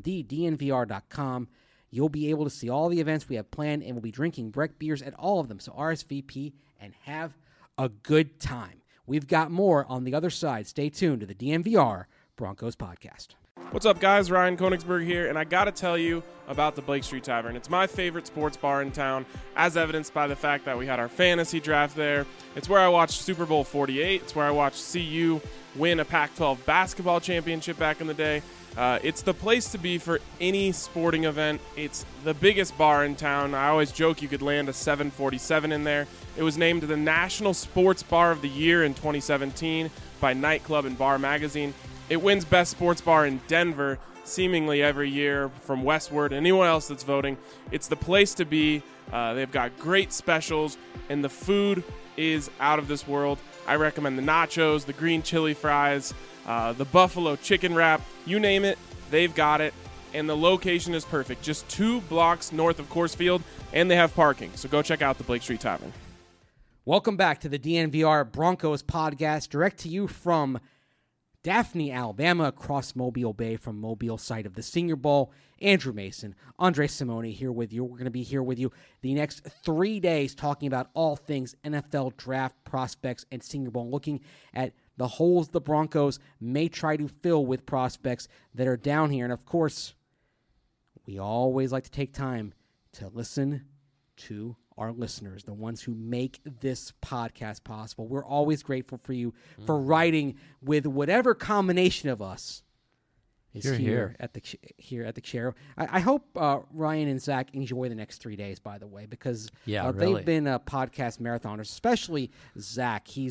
DNVR.com. You'll be able to see all the events we have planned, and we'll be drinking Breck beers at all of them. So RSVP and have a good time. We've got more on the other side. Stay tuned to the DNVR Broncos podcast. What's up, guys? Ryan Koenigsberg here, and I got to tell you about the Blake Street Tavern. It's my favorite sports bar in town, as evidenced by the fact that we had our fantasy draft there. It's where I watched Super Bowl 48. It's where I watched CU win a Pac-12 basketball championship back in the day. It's the place to be for any sporting event. It's the biggest bar in town. I always joke you could land a 747 in there. It was named the National Sports Bar of the Year in 2017 by Nightclub and Bar Magazine. It wins Best Sports Bar in Denver seemingly every year from Westward. Anyone else that's voting, it's the place to be. They've got great specials, and the food is out of this world. I recommend the nachos, the green chili fries, the buffalo chicken wrap, you name it, they've got it. And the location is perfect, just 2 blocks north of Coors Field, and they have parking. So go check out the Blake Street Tavern. Welcome back to the DNVR Broncos podcast, direct to you from Daphne, Alabama, across Mobile Bay from Mobile, site of the Senior Bowl. Andrew Mason, Andre Simone here with you. We're going to be here with you the next 3 days talking about all things NFL draft prospects and Senior Bowl, looking at the holes the Broncos may try to fill with prospects that are down here. And, of course, we always like to take time to listen to our listeners, the ones who make this podcast possible. We're always grateful for you for writing with whatever combination of us is here at the chair. I hope Ryan and Zach enjoy the next 3 days, by the way, because really. they've been podcast marathoners, especially Zach. He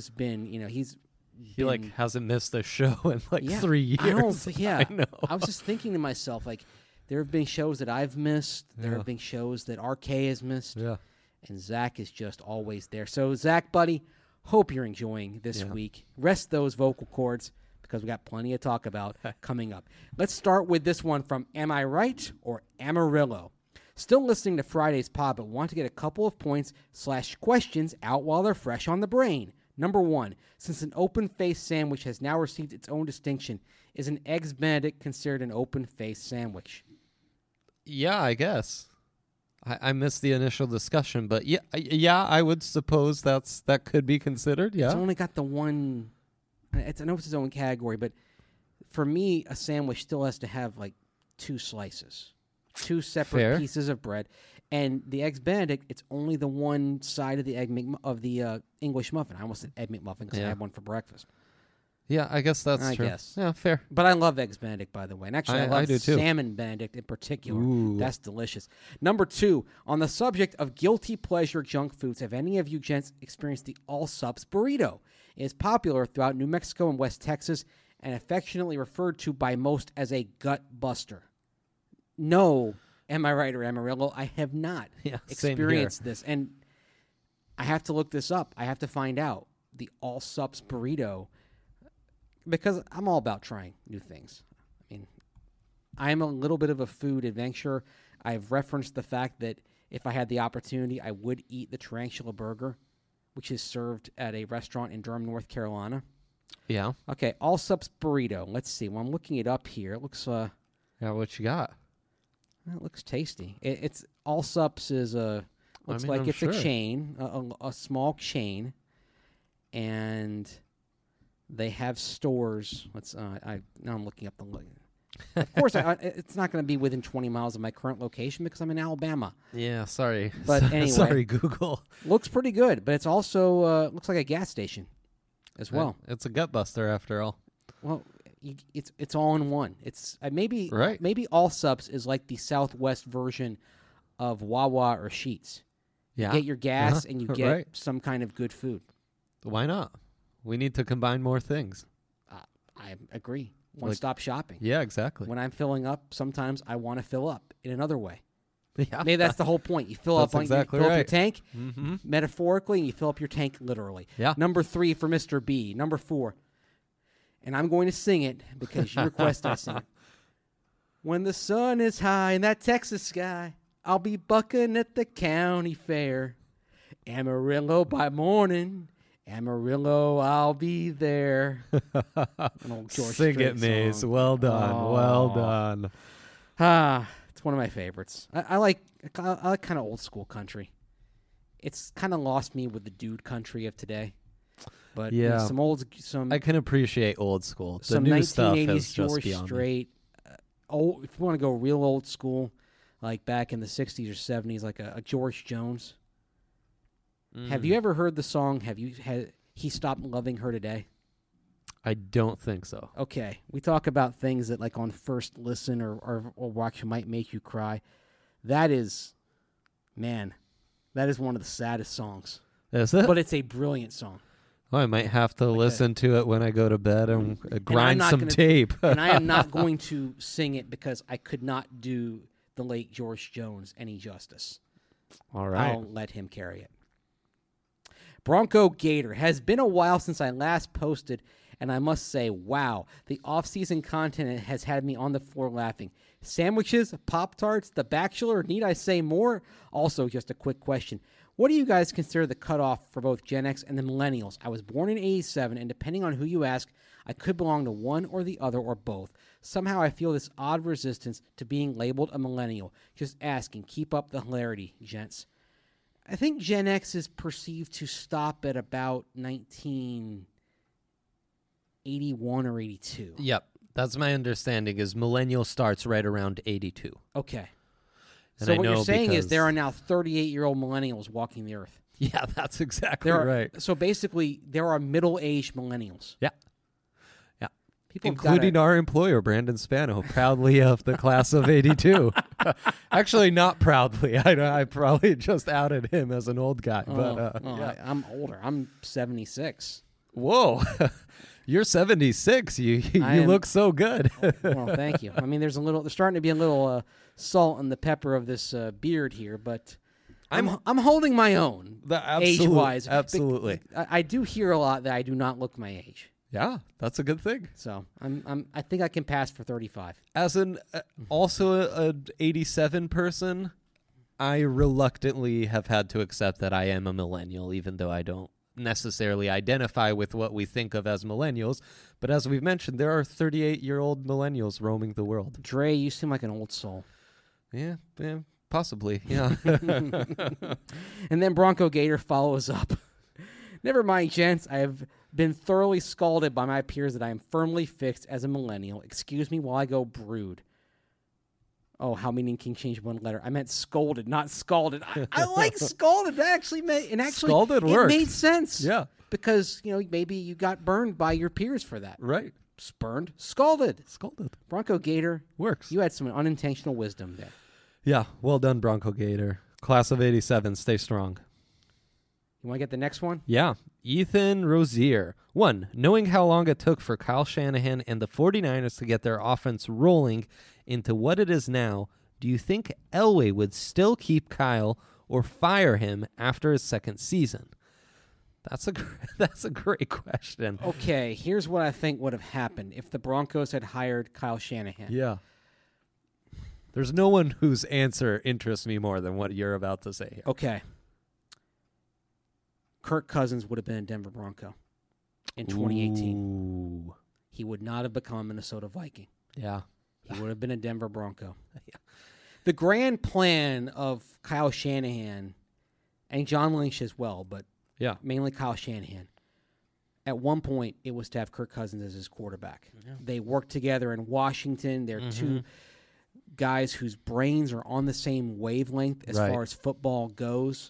hasn't missed a show in 3 years. I know. I was just thinking to myself, there have been shows that I've missed. There have been shows that RK has missed. Yeah. And Zach is just always there. So, Zach, buddy, hope you're enjoying this week. Rest those vocal cords because we got plenty to talk about coming up. Let's start with this one from Am I Right or Amarillo. Still listening to Friday's pod, but want to get a couple of points/questions out while they're fresh on the brain. Number 1, since an open-faced sandwich has now received its own distinction, is an Eggs Benedict considered an open-faced sandwich? Yeah, I guess. I missed the initial discussion, but yeah, I would suppose that could be considered. Yeah, it's only got the one. I know it's its own category, but for me, a sandwich still has to have 2 slices, 2 separate pieces of bread, and the Eggs Benedict. It's only the one side of the English muffin. I almost said Egg McMuffin because I had one for breakfast. Yeah, I guess that's true. Yeah, fair. But I love Eggs Benedict, by the way. And actually, I love do too. Salmon Benedict in particular. Ooh. That's delicious. Number 2, on the subject of guilty pleasure junk foods, have any of you gents experienced the Allsup's burrito? It is popular throughout New Mexico and West Texas and affectionately referred to by most as a gut buster. No, am I right or Amarillo? I have not experienced this. And I have to look this up. I have to find out. The Allsup's burrito. Because I'm all about trying new things. I mean, I'm a little bit of a food adventurer. I've referenced the fact that if I had the opportunity, I would eat the Tarantula Burger, which is served at a restaurant in Durham, North Carolina. Yeah. Okay, Allsup's burrito. Let's see. Well, I'm looking it up here. It looks yeah, what you got? It looks tasty. It's Allsup's is a a chain, a small chain, and they have stores. Now I'm looking up the. Of course, it's not going to be within 20 miles of my current location because I'm in Alabama. Yeah, sorry. But anyway, sorry, Google. Looks pretty good, but it's also looks like a gas station as well. It's a gut buster after all. Well, it's all in one. It's maybe Allsup's is like the Southwest version of Wawa or Sheetz. Yeah, you get your gas and you get some kind of good food. Why not? We need to combine more things. I agree. One-stop shopping. Yeah, exactly. When I'm filling up, sometimes I want to fill up in another way. Yeah. Maybe that's the whole point. You fill That's up on exactly you fill up your right. tank Mm-hmm. metaphorically, and you fill up your tank literally. Yeah. Number 3 for Mr. B. Number 4, and I'm going to sing it because you requested I sing it. When the sun is high in that Texas sky, I'll be bucking at the county fair. Amarillo by morning, Amarillo, I'll be there. An old George Sing Strait it, Maze. song. Well done. Well Oh. done. It's one of my favorites. I like kind of old school country. It's kind of lost me with the dude country of today. But Yeah. some I can appreciate old school. The some new stuff 1980s is just George beyond me. Strait. If you want to go real old school, like back in the 60s or 70s, like a George Jones. Have you ever heard the song? He stopped loving her today? I don't think so. Okay, we talk about things that, like, on first listen or watch might make you cry. That is one of the saddest songs. Is it? But it's a brilliant song. Oh, I might have to listen to it when I go to bed and grind not some gonna- tape. And I am not going to sing it because I could not do the late George Jones any justice. All right. I'll let him carry it. Bronco Gator. Has been a while since I last posted, and I must say, wow, the off-season content has had me on the floor laughing. Sandwiches, Pop-Tarts, The Bachelor, need I say more? Also, just a quick question. What do you guys consider the cutoff for both Gen X and the millennials? I was born in 87, and depending on who you ask, I could belong to one or the other or both. Somehow I feel this odd resistance to being labeled a millennial. Just asking. Keep up the hilarity, gents. I think Gen X is perceived to stop at about 1981 or 82. Yep. That's my understanding is millennial starts right around 82. Okay. And So I what you're know saying is because- there are now 38-year-old millennials walking the earth. Yeah, that's exactly There are, right. So basically, there are middle-aged millennials. Yeah. Yeah. People have Including gotta- our employer, Brandon Spano, proudly of the class of 82. Actually, not proudly. I probably just outed him as an old guy. But yeah. I'm older. I'm 76. Whoa. You're 76. You am- look so good. Well, thank you. I mean, there's starting to be a little salt and the pepper of this beard here, but I'm holding my own age-wise. Absolutely. I do hear a lot that I do not look my age, Yeah, that's a good thing. so I think I can pass for 35. As an also an 87 person, I reluctantly have had to accept that I am a millennial, even though I don't necessarily identify with what we think of as millennials. But as we've mentioned, there are 38-year-old millennials roaming the world. Dre, you seem like an old soul. Yeah, possibly. Yeah. And then Bronco Gator follows up. Never mind, gents. I have been thoroughly scalded by my peers that I am firmly fixed as a millennial. Excuse me while I go brood. Oh, how meaning can change one letter. I meant scolded, not scalded. I like scalded. That actually Scalded it works. made sense. Yeah. Because, maybe you got burned by your peers for that. Right. Spurned, scalded. Scalded. Bronco Gator, Works. you had some unintentional wisdom there. Yeah. Well done, Bronco Gator. Class of 87. Stay strong. You want to get the next one? Yeah. Ethan Rozier. 1. Knowing how long it took for Kyle Shanahan and the 49ers to get their offense rolling into what it is now, do you think Elway would still keep Kyle or fire him after his second season? That's a great question. Okay, here's what I think would have happened if the Broncos had hired Kyle Shanahan. Yeah. There's no one whose answer interests me more than what you're about to say here. Okay. Kirk Cousins would have been a Denver Bronco in 2018. Ooh. He would not have become a Minnesota Viking. Yeah. He would have been a Denver Bronco. Yeah. The grand plan of Kyle Shanahan and John Lynch as well, but Yeah. mainly Kyle Shanahan. At one point, it was to have Kirk Cousins as his quarterback. Yeah. They worked together in Washington. They're two guys whose brains are on the same wavelength as Right. far as football goes.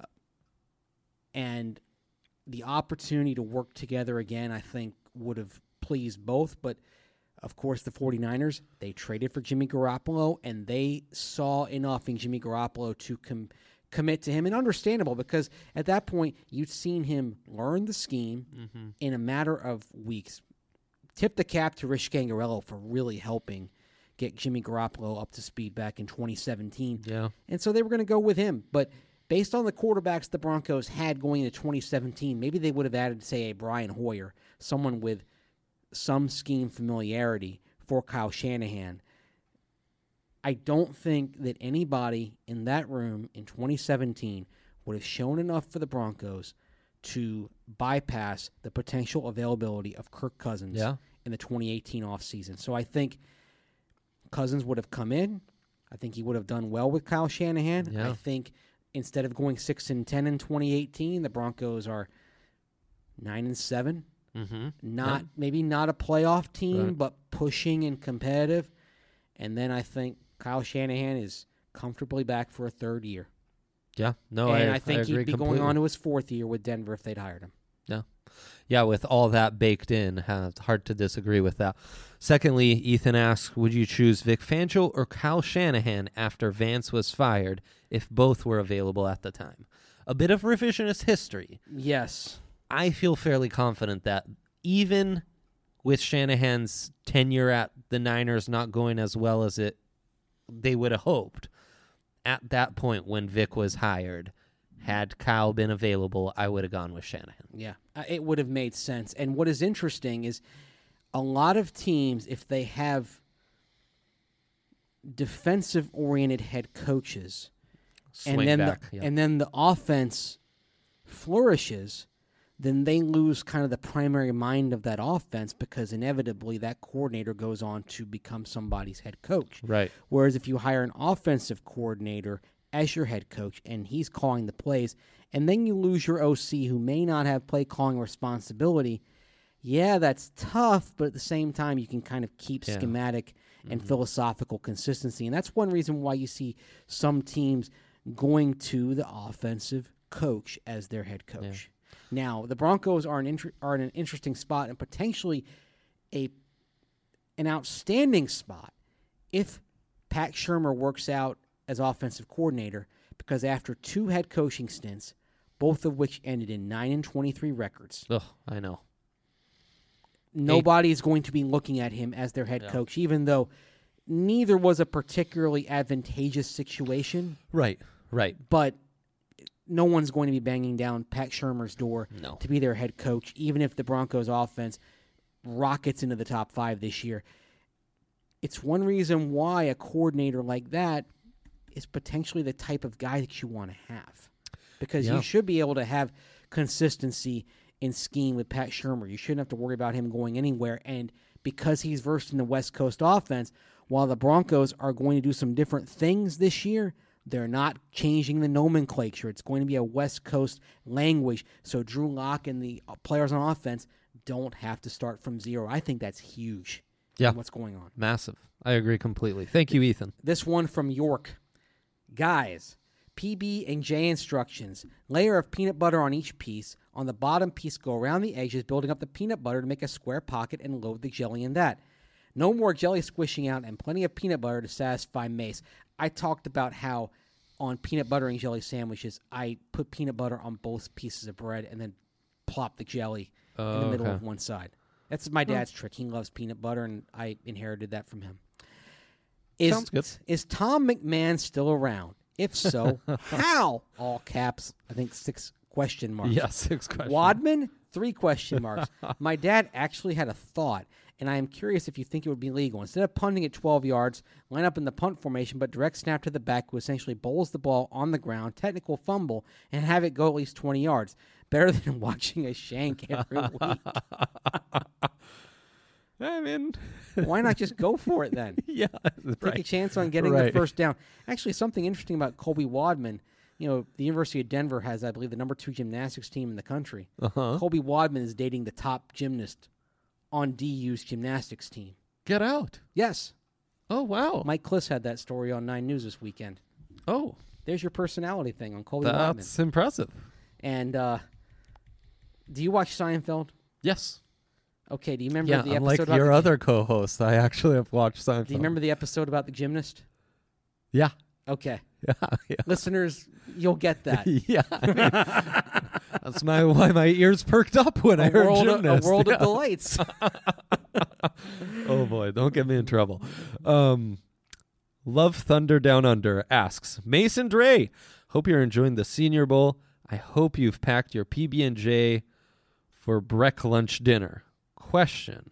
And the opportunity to work together again, I think, would have pleased both. But, of course, the 49ers, they traded for Jimmy Garoppolo, and they saw enough in Jimmy Garoppolo to commit to him. And understandable, because at that point, you'd seen him learn the scheme in a matter of weeks. Tip the cap to Rich Gangarello for really helping get Jimmy Garoppolo up to speed back in 2017. Yeah. And so they were going to go with him. But based on the quarterbacks the Broncos had going into 2017, maybe they would have added, say, a Brian Hoyer, someone with some scheme familiarity for Kyle Shanahan. I don't think that anybody in that room in 2017 would have shown enough for the Broncos to bypass the potential availability of Kirk Cousins in the 2018 offseason. So I think Cousins would have come in. I think he would have done well with Kyle Shanahan. Yeah. I think instead of going 6-10 in 2018, the Broncos are 9-7. Mm-hmm. Maybe not a playoff team, Right. but pushing and competitive. And then I think Kyle Shanahan is comfortably back for a third year. Yeah. No, and I think agree he'd be completely. going on to his fourth year with Denver if they'd hired him. Yeah, with all that baked in, hard to disagree with that. Secondly, Ethan asks, would you choose Vic Fangio or Kyle Shanahan after Vance was fired if both were available at the time? A bit of revisionist history. Yes. I feel fairly confident that even with Shanahan's tenure at the Niners not going as well as they would have hoped, at that point when Vic was hired, had Kyle been available, I would have gone with Shanahan. Yeah, it would have made sense. And what is interesting is a lot of teams, if they have defensive-oriented head coaches, Swing and then back. and then the offense flourishes, then they lose kind of the primary mind of that offense because inevitably that coordinator goes on to become somebody's head coach. Right. Whereas if you hire an offensive coordinator as your head coach and he's calling the plays, and then you lose your OC who may not have play calling responsibility, yeah, that's tough, but at the same time you can kind of keep schematic and philosophical consistency. And that's one reason why you see some teams going to the offensive coach as their head coach. Yeah. Now, the Broncos are in an interesting spot and potentially an outstanding spot if Pat Shurmur works out as offensive coordinator, because after two head coaching stints, both of which ended in 9-23 records, I know. Nobody's going to be looking at him as their head coach, even though neither was a particularly advantageous situation. Right. But no one's going to be banging down Pat Shurmur's door to be their head coach, even if the Broncos offense rockets into the top 5 this year. It's one reason why a coordinator like that is potentially the type of guy that you want to have, because you should be able to have consistency in scheme with Pat Shurmur. You shouldn't have to worry about him going anywhere. And because he's versed in the West Coast offense, while the Broncos are going to do some different things this year, they're not changing the nomenclature. It's going to be a West Coast language, so Drew Lock and the players on offense don't have to start from zero. I think that's huge. Yeah. What's going on? Massive. I agree completely. Thank you, Ethan. This one from York. Guys, PB&J instructions. Layer of peanut butter on each piece. On the bottom piece, go around the edges, building up the peanut butter to make a square pocket and load the jelly in that. No more jelly squishing out and plenty of peanut butter to satisfy Mace. I talked about how on peanut butter and jelly sandwiches, I put peanut butter on both pieces of bread and then plop the jelly in the middle of one side. That's my dad's trick. He loves peanut butter, and I inherited that from him. Sounds good. Is Tom McMahon still around? If so, how? All caps, I think 6 question marks. Yeah, 6 questions. Wadman, 3 question marks. My dad actually had a thought, and I am curious if you think it would be legal. Instead of punting at 12 yards, line up in the punt formation, but direct snap to the back who essentially bowls the ball on the ground, technical fumble, and have it go at least 20 yards. Better than watching a shank every week. I mean, why not just go for it then? Yeah, Take a chance on getting the first down. Actually, something interesting about Colby Wadman. You know, the University of Denver has, I believe, the number 2 gymnastics team in the country. Colby Wadman is dating the top gymnast on DU's gymnastics team. Get out. Yes. Oh, wow. Mike Kliss had that story on 9 News this weekend. Oh. There's your personality thing on Colby Wadman. That's impressive. And do you watch Seinfeld? Yes. Okay, do you remember the episode unlike about your other co-host, I actually have watched Seinfeld. Do you remember the episode about the gymnast? Yeah. Okay. Yeah. Listeners, you'll get that. Yeah. I mean, that's why my ears perked up when I heard gymnast. A world of delights. Oh boy, don't get me in trouble. Love Thunder Down Under asks, Mason Dre, hope you're enjoying the Senior Bowl. I hope you've packed your PB&J for break lunch dinner. Question,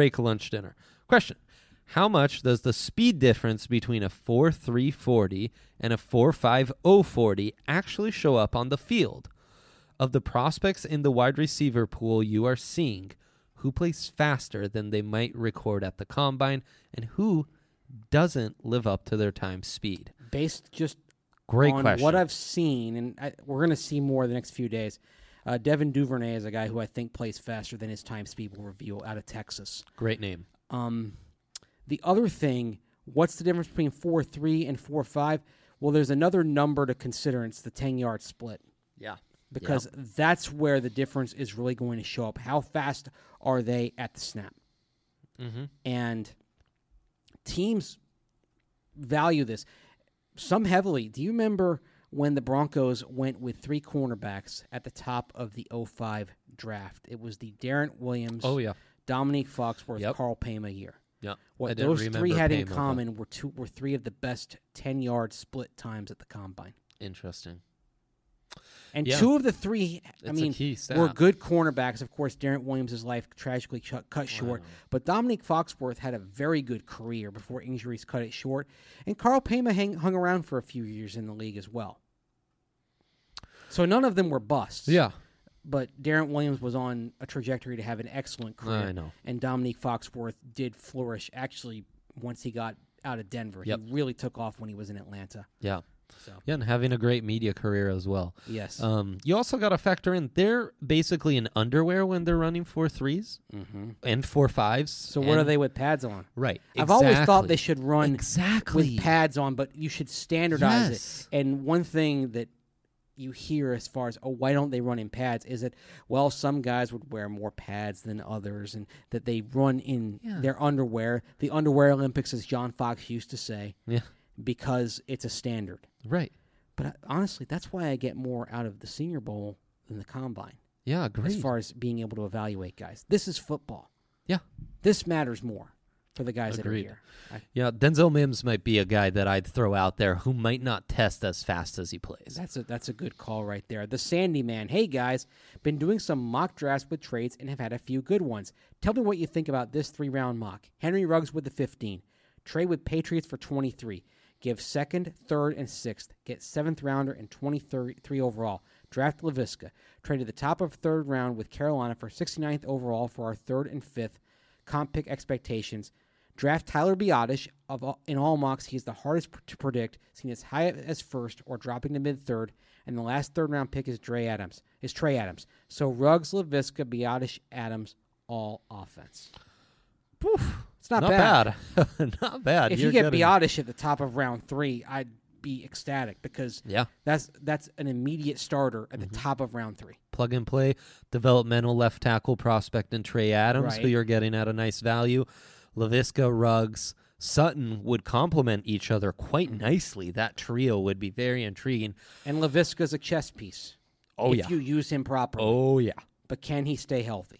how much does the speed difference between a 4.3 40 and a 4.5 40 actually show up on the field? Of the prospects in the wide receiver pool you are seeing, who plays faster than they might record at the combine, and who doesn't live up to their time speed? Based just Great on question. what I've seen, and we're going to see more the next few days, Devin Duvernay is a guy who I think plays faster than his time speed will reveal out of Texas. Great name. The other thing, what's the difference between 4.3 and 4.5? Well, there's another number to consider, and it's the 10-yard split. Yeah. Because that's where the difference is really going to show up. How fast are they at the snap? Mm-hmm. And teams value this. Some heavily. Do you remember when the Broncos went with 3 cornerbacks at the top of the 05 draft? It was the Darren Williams, Dominique Foxworth, Carl Payma year. Yeah. What those three had in common were 3 of the best 10-yard split times at the combine. Interesting. And 2 of the 3, were good cornerbacks. Of course, Darren Williams' life tragically cut short. But Dominique Foxworth had a very good career before injuries cut it short. And Carl Payma hung around for a few years in the league as well. So none of them were busts. Yeah. But Darren Williams was on a trajectory to have an excellent career. I know. And Dominique Foxworth did flourish, actually, once he got out of Denver. He really took off when he was in Atlanta. Yeah. So. Yeah, and having a great media career as well. Yes. You also got to factor in, they're basically in underwear when they're running 4.3s and 4.5s. So what are they with pads on? Right. I've always thought they should run exactly with pads on, but you should standardize it. And one thing that you hear as far as, why don't they run in pads, is that, well, some guys would wear more pads than others, and that they run in their underwear. The Underwear Olympics, as John Fox used to say, because it's a standard. Right. But honestly, that's why I get more out of the Senior Bowl than the Combine. Yeah, agreed. As far as being able to evaluate guys. This is football. Yeah. This matters more for the guys Agreed. that are here. Yeah, Denzel Mims might be a guy that I'd throw out there who might not test as fast as he plays. That's a good call right there. The Sandy Man. Hey, guys, been doing some mock drafts with trades and have had a few good ones. Tell me what you think about this 3-round mock. Henry Ruggs with the 15. Trade with Patriots for 23. Give 2nd, 3rd, and 6th. Get 7th rounder and 23 overall. Draft LaVisca. Trade at the top of 3rd round with Carolina for 69th overall for our 3rd and 5th. Comp pick expectations. Draft Tyler Biadasz. In all mocks, he's the hardest to predict, seen as high as 1st or dropping to mid-3rd. And the last 3rd round pick is Trey Adams. So Ruggs, LaVisca, Biadasz, Adams, all offense. Poof. It's not bad. Not bad. If you get Biadasz at the top of round 3, I'd be ecstatic because that's an immediate starter at the top of round 3. Plug and play, developmental left tackle prospect in Trey Adams, who you're getting at a nice value. LaVisca, Ruggs, Sutton would complement each other quite nicely. That trio would be very intriguing. And LaVisca's a chess piece. If you use him properly. Oh, yeah. But can he stay healthy?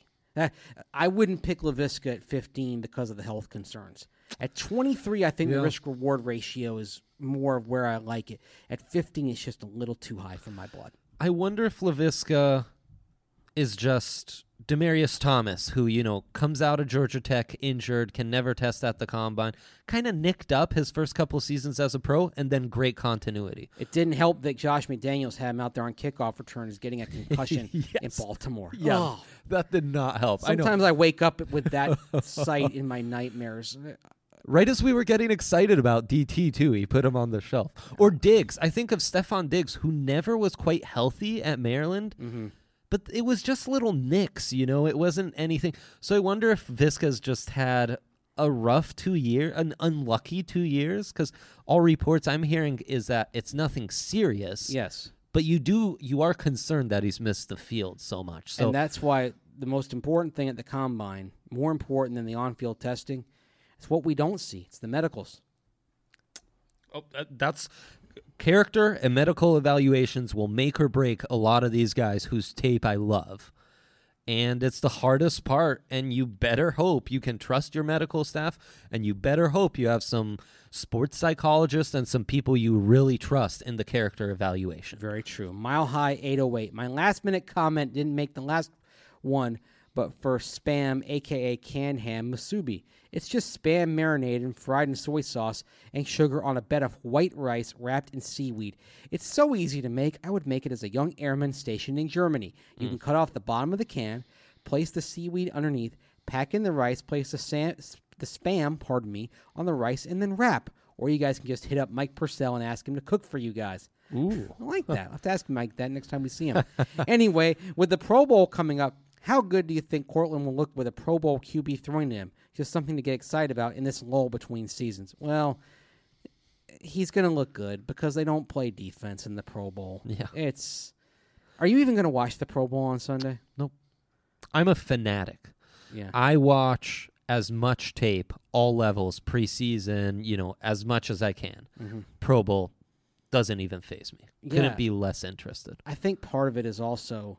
I wouldn't pick LaVisca at 15 because of the health concerns. At 23, I think the risk-reward ratio is more of where I like it. At 15, it's just a little too high for my blood. I wonder if LaVisca is just Demaryius Thomas, who, comes out of Georgia Tech injured, can never test at the combine, kind of nicked up his first couple seasons as a pro, and then great continuity. It didn't help that Josh McDaniels had him out there on kickoff returns getting a concussion in Baltimore. Yeah, that did not help. Sometimes I wake up with that sight in my nightmares. Right as we were getting excited about DT, too, he put him on the shelf. Or Diggs. I think of Stephon Diggs, who never was quite healthy at Maryland. Mm-hmm. But it was just little nicks, It wasn't anything. So I wonder if Visca's just had a rough 2 year, an unlucky 2 years, because all reports I'm hearing is that it's nothing serious. Yes. But you are concerned that he's missed the field so much. So, and that's why the most important thing at the combine, more important than the on-field testing, is what we don't see. It's the medicals. Oh, that's... Character and medical evaluations will make or break a lot of these guys whose tape I love. And it's the hardest part, and you better hope you can trust your medical staff, and you better hope you have some sports psychologists and some people you really trust in the character evaluation. Very true. Mile High 808. My last-minute comment didn't make the last one, but for Spam, a.k.a. canned ham musubi. It's just Spam marinated and fried in soy sauce and sugar on a bed of white rice wrapped in seaweed. It's so easy to make. I would make it as a young airman stationed in Germany. You can cut off the bottom of the can, place the seaweed underneath, pack in the rice, place the Spam, on the rice, and then wrap. Or you guys can just hit up Mike Purcell and ask him to cook for you guys. Ooh. I like that. I'll have to ask Mike that next time we see him. Anyway, with the Pro Bowl coming up, how good do you think Cortland will look with a Pro Bowl QB thrown to him? Just something to get excited about in this lull between seasons. Well, he's going to look good because they don't play defense in the Pro Bowl. Yeah. Are you even going to watch the Pro Bowl on Sunday? Nope. I'm a fanatic. Yeah. I watch as much tape, all levels, preseason, as much as I can. Mm-hmm. Pro Bowl doesn't even faze me. Yeah. Couldn't be less interested. I think part of it is also,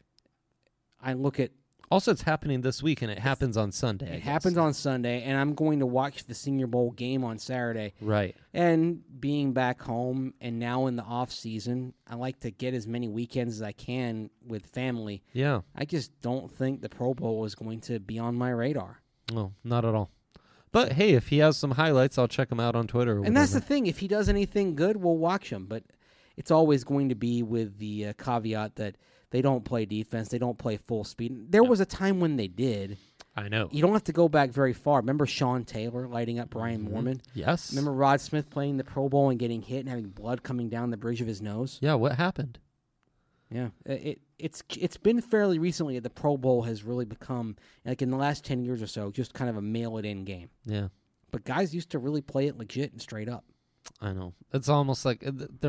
I look at, Also, it's happening this week, and it happens on Sunday. it happens on Sunday, and I'm going to watch the Senior Bowl game on Saturday. Right. And being back home and now in the off season, I like to get as many weekends as I can with family. Yeah. I just don't think the Pro Bowl is going to be on my radar. No, not at all. But, hey, if he has some highlights, I'll check him out on Twitter. And that's the thing. If he does anything good, we'll watch him. But it's always going to be with the caveat that they don't play defense. They don't play full speed. There was a time when they did. I know. You don't have to go back very far. Remember Sean Taylor lighting up Brian Moorman? Yes. Remember Rod Smith playing the Pro Bowl and getting hit and having blood coming down the bridge of his nose? Yeah, what happened? Yeah. It's been fairly recently that the Pro Bowl has really become, like in the last 10 years or so, just kind of a mail-it-in game. Yeah. But guys used to really play it legit and straight up. I know. It's almost like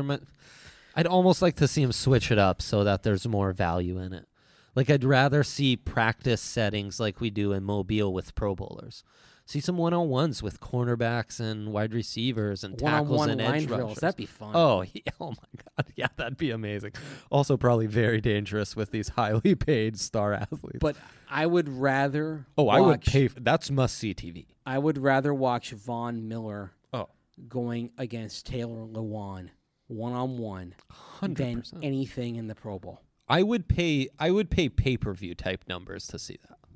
I'd almost like to see him switch it up so that there's more value in it. Like, I'd rather see practice settings like we do in Mobile with Pro Bowlers. See some one-on-ones with cornerbacks and wide receivers and tackles One-on-one and line edge drills. rushers. That'd be fun. Oh, yeah. Oh, my God. Yeah, that'd be amazing. Also probably very dangerous with these highly paid star athletes. But I would rather I would pay. That's must-see TV. I would rather watch Von Miller Oh. going against Taylor Lewan one-on-one than 100%. anything in the Pro Bowl. I would pay pay-per-view type numbers to see that.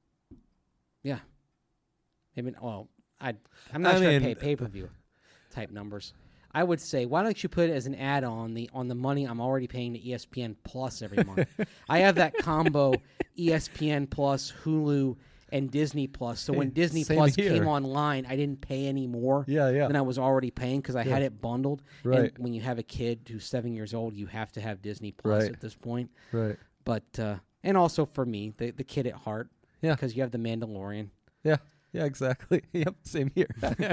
Yeah. Maybe. Well, I'm not sure I'd pay pay-per-view type numbers. I would say, why don't you put it as an add-on on the money I'm already paying to ESPN Plus every month? I have that combo ESPN Plus, Hulu, and Disney Plus. So when Disney same Plus here. came online, I didn't pay any more Yeah. than I was already paying because I had it bundled. Right. And when you have a kid who's 7 years old, you have to have Disney Plus Right. at this point. Right. But and also for me, the kid at heart. Yeah. Because you have the Mandalorian. Yeah. Yeah, exactly. Yep, same here.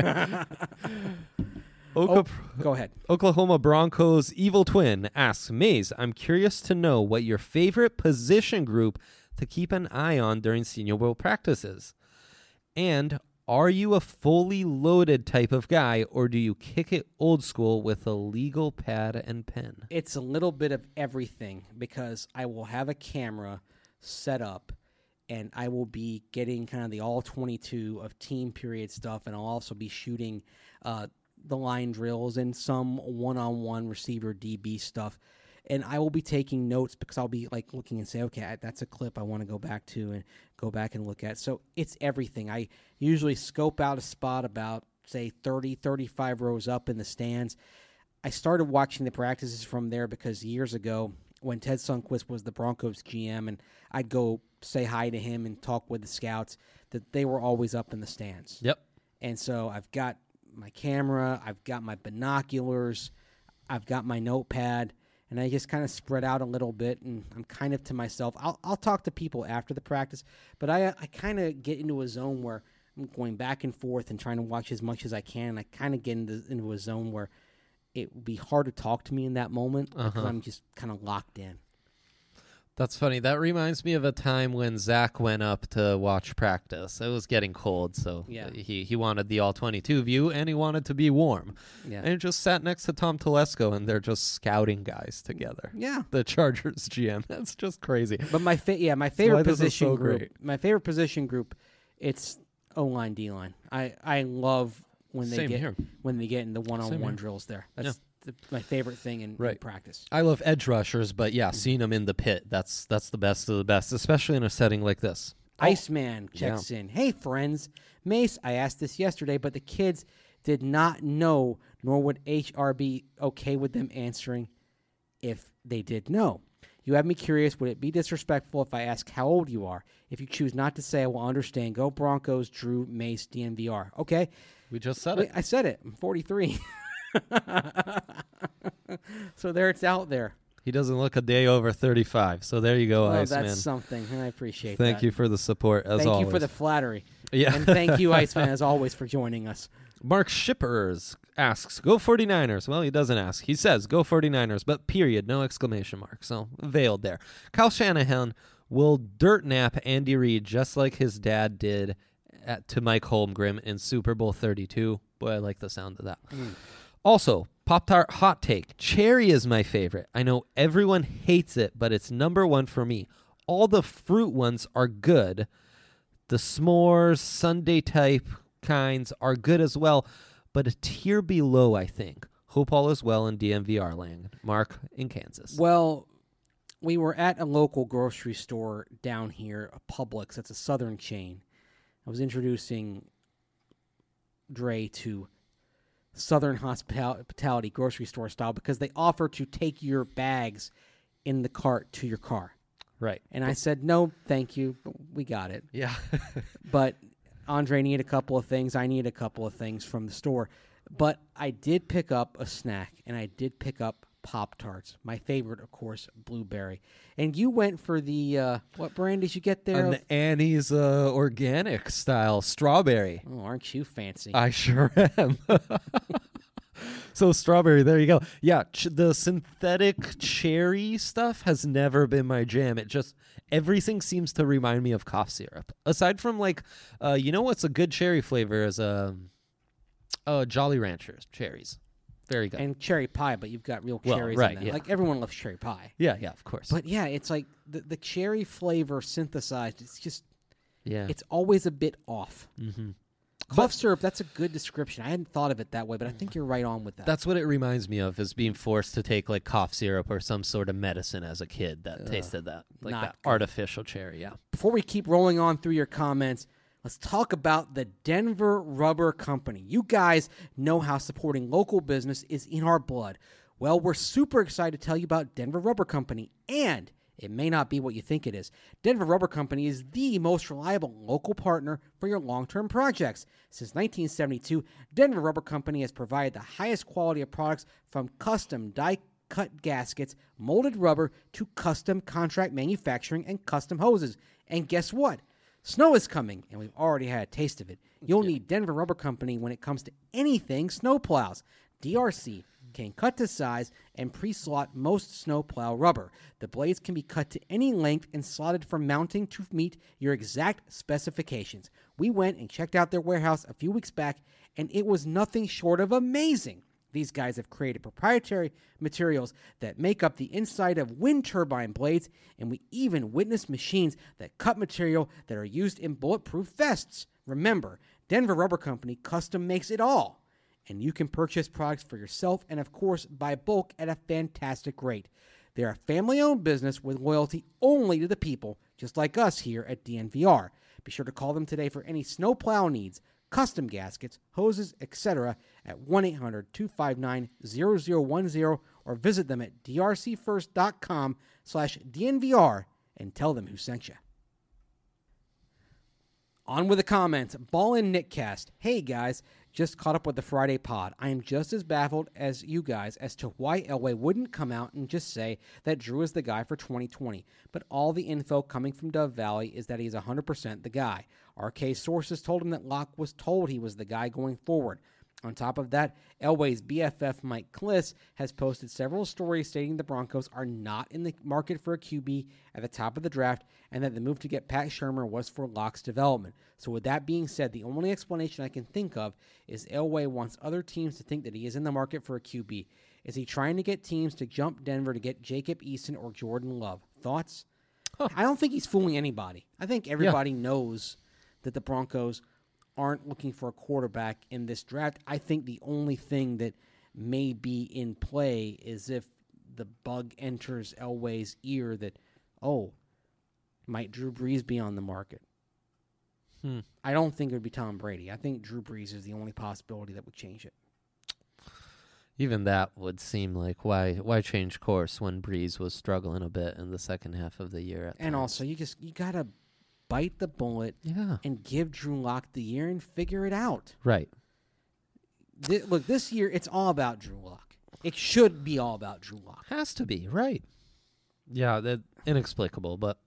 Go ahead. Oklahoma Broncos evil twin asks, Maze, I'm curious to know what your favorite position group to keep an eye on during Senior Bowl practices. And are you a fully loaded type of guy, or do you kick it old school with a legal pad and pen? It's a little bit of everything because I will have a camera set up and I will be getting kind of the all 22 of team period stuff, and I'll also be shooting the line drills and some one-on-one receiver DB stuff. And I will be taking notes because I'll be like looking and say, okay, that's a clip I want to go back to and go back and look at. So it's everything. I usually scope out a spot about, say, 30, 35 rows up in the stands. I started watching the practices from there because years ago when Ted Sundquist was the Broncos GM and I'd go say hi to him and talk with the scouts, that they were always up in the stands. Yep. And so I've got my camera, I've got my binoculars, I've got my notepad, and I just kind of spread out a little bit, and I'm kind of to myself. I'll talk to people after the practice, but I kind of get into a zone where I'm going back and forth and trying to watch as much as I can. I kind of get into a zone where it would be hard to talk to me in that moment because I'm just kind of locked in. That's funny. That reminds me of a time when Zach went up to watch practice. It was getting cold, so Yeah. he wanted the all-22 view, and he wanted to be warm. Yeah. And he just sat next to Tom Telesco, and they're just scouting guys together. Yeah. The Chargers GM. That's just crazy. But my favorite why this is position so group. great. My favorite position group, it's O-line, D-line. I love when they Same get here. in the Same one-on-one here. drills there. That's my favorite thing in Right. practice. I love edge rushers, but yeah, seeing them in the pit, that's the best of the best, especially in a setting like this. Iceman checks in. Hey, friends. Mace, I asked this yesterday, but the kids did not know, nor would HR be okay with them answering if they did know. You have me curious. Would it be disrespectful if I ask how old you are? If you choose not to say, I will understand. Go Broncos, Drew, Mace, DNVR. Okay. We just said it. I said it. I'm 43. So there, it's out there. He doesn't look a day over 35, so there you go, Oh, Iceman. that's something, and I appreciate that. Thank you for the support, as Thank always. you for the flattery. Yeah. And thank you, Iceman, as always, for joining us. Mark Shippers asks, go 49ers. Well, he doesn't ask. He says, go 49ers, but period, no exclamation mark. So veiled there. Kyle Shanahan will dirt nap Andy Reid just like his dad did to Mike Holmgren in Super Bowl 32. Boy, I like the sound of that. Also, Pop-Tart hot take. Cherry is my favorite. I know everyone hates it, but it's number one for me. All the fruit ones are good. The s'mores, sundae type kinds are good as well, but a tier below, I think. Hope all is well in DMVR land. Mark in Kansas. Well, we were at a local grocery store down here, a Publix. That's a southern chain. I was introducing Dre to Southern hospitality grocery store style because they offer to take your bags in the cart to your car. Right. And I said, no, thank you. We got it. Yeah. But Andre needed a couple of things. I need a couple of things from the store. But I did pick up a snack, and I did pick up Pop-Tarts. My favorite, of course, blueberry. And you went for the, what brand did you get there? An Annie's organic style strawberry. Oh, aren't you fancy? I sure am. So strawberry, there you go. Yeah, the synthetic cherry stuff has never been my jam. It just, everything seems to remind me of cough syrup. Aside from like, you know what's a good cherry flavor is Jolly Ranchers cherries. Very good. And cherry pie, but you've got real Well, cherries right, in that. yeah. Like, everyone loves cherry pie. Yeah, of course. But, yeah, it's like the cherry flavor synthesized. It's just, yeah. it's always a bit off. Mm-hmm. Cough syrup, that's a good description. I hadn't thought of it that way, but I think you're right on with that. That's what it reminds me of, is being forced to take like cough syrup or some sort of medicine as a kid that tasted that. Like not that good. artificial cherry, yeah. Before we keep rolling on through your comments, let's talk about the Denver Rubber Company. You guys know how supporting local business is in our blood. Well, we're super excited to tell you about Denver Rubber Company, and it may not be what you think it is. Denver Rubber Company is the most reliable local partner for your long-term projects. Since 1972, Denver Rubber Company has provided the highest quality of products from custom die-cut gaskets, molded rubber, to custom contract manufacturing and custom hoses. And guess what? Snow is coming, and we've already had a taste of it. You'll need Denver Rubber Company when it comes to anything snowplows. DRC can cut to size and pre-slot most snowplow rubber. The blades can be cut to any length and slotted for mounting to meet your exact specifications. We went and checked out their warehouse a few weeks back, and it was nothing short of amazing. These guys have created proprietary materials that make up the inside of wind turbine blades, and we even witnessed machines that cut material that are used in bulletproof vests. Remember, Denver Rubber Company custom makes it all, and you can purchase products for yourself and, of course, buy bulk at a fantastic rate. They're a family-owned business with loyalty only to the people, just like us here at DNVR. Be sure to call them today for any snowplow needs, custom gaskets, hoses, etc. at 1-800-259-0010 or visit them at drcfirst.com/DNVR and tell them who sent you. On with the comments. Ballin' Nickcast. Hey guys, just caught up with the Friday pod. I am just as baffled as you guys as to why Elway wouldn't come out and just say that Drew is the guy for 2020. But all the info coming from Dove Valley is that he's 100% the guy. RK sources told him that Locke was told he was the guy going forward. On top of that, Elway's BFF Mike Kliss has posted several stories stating the Broncos are not in the market for a QB at the top of the draft and that the move to get Pat Shurmur was for Locke's development. So with that being said, the only explanation I can think of is Elway wants other teams to think that he is in the market for a QB. Is he trying to get teams to jump Denver to get Jacob Eason or Jordan Love? Thoughts? I don't think he's fooling anybody. I think everybody knows that the Broncos aren't looking for a quarterback in this draft. I think the only thing that may be in play is if the bug enters Elway's ear that, might Drew Brees be on the market? I don't think it would be Tom Brady. I think Drew Brees is the only possibility that would change it. Even that would seem like why change course when Brees was struggling a bit in the second half of the year. And also, you got to bite the bullet and give Drew Lock the year and figure it out. Right. Look, this year, it's all about Drew Lock. It should be all about Drew Lock. Has to be, right. Yeah, that's inexplicable, but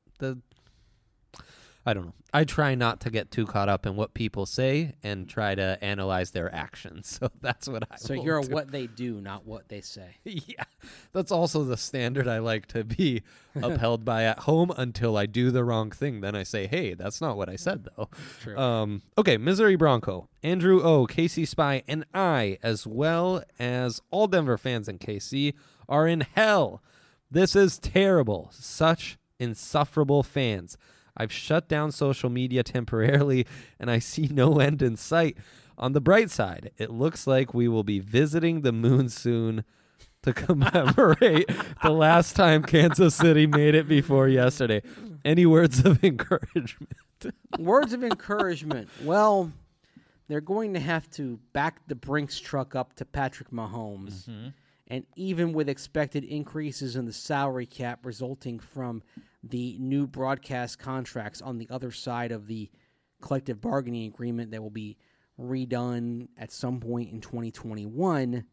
I don't know. I try not to get too caught up in what people say and try to analyze their actions. So that's what I So you're what they do, not what they say. Yeah. That's also the standard I like to be upheld by at home until I do the wrong thing. Then I say, hey, that's not what I said, though. True. Okay, Missouri Bronco. Andrew O., KC Spy, and I, as well as all Denver fans in KC, are in hell. This is terrible. Such insufferable fans. I've shut down social media temporarily, and I see no end in sight. On the bright side, it looks like we will be visiting the moon soon to commemorate the last time Kansas City made it before yesterday. Any words of encouragement? Words of encouragement. Well, they're going to have to back the Brinks truck up to Patrick Mahomes. Mm-hmm. And even with expected increases in the salary cap resulting from the new broadcast contracts on the other side of the collective bargaining agreement that will be redone at some point in 2021,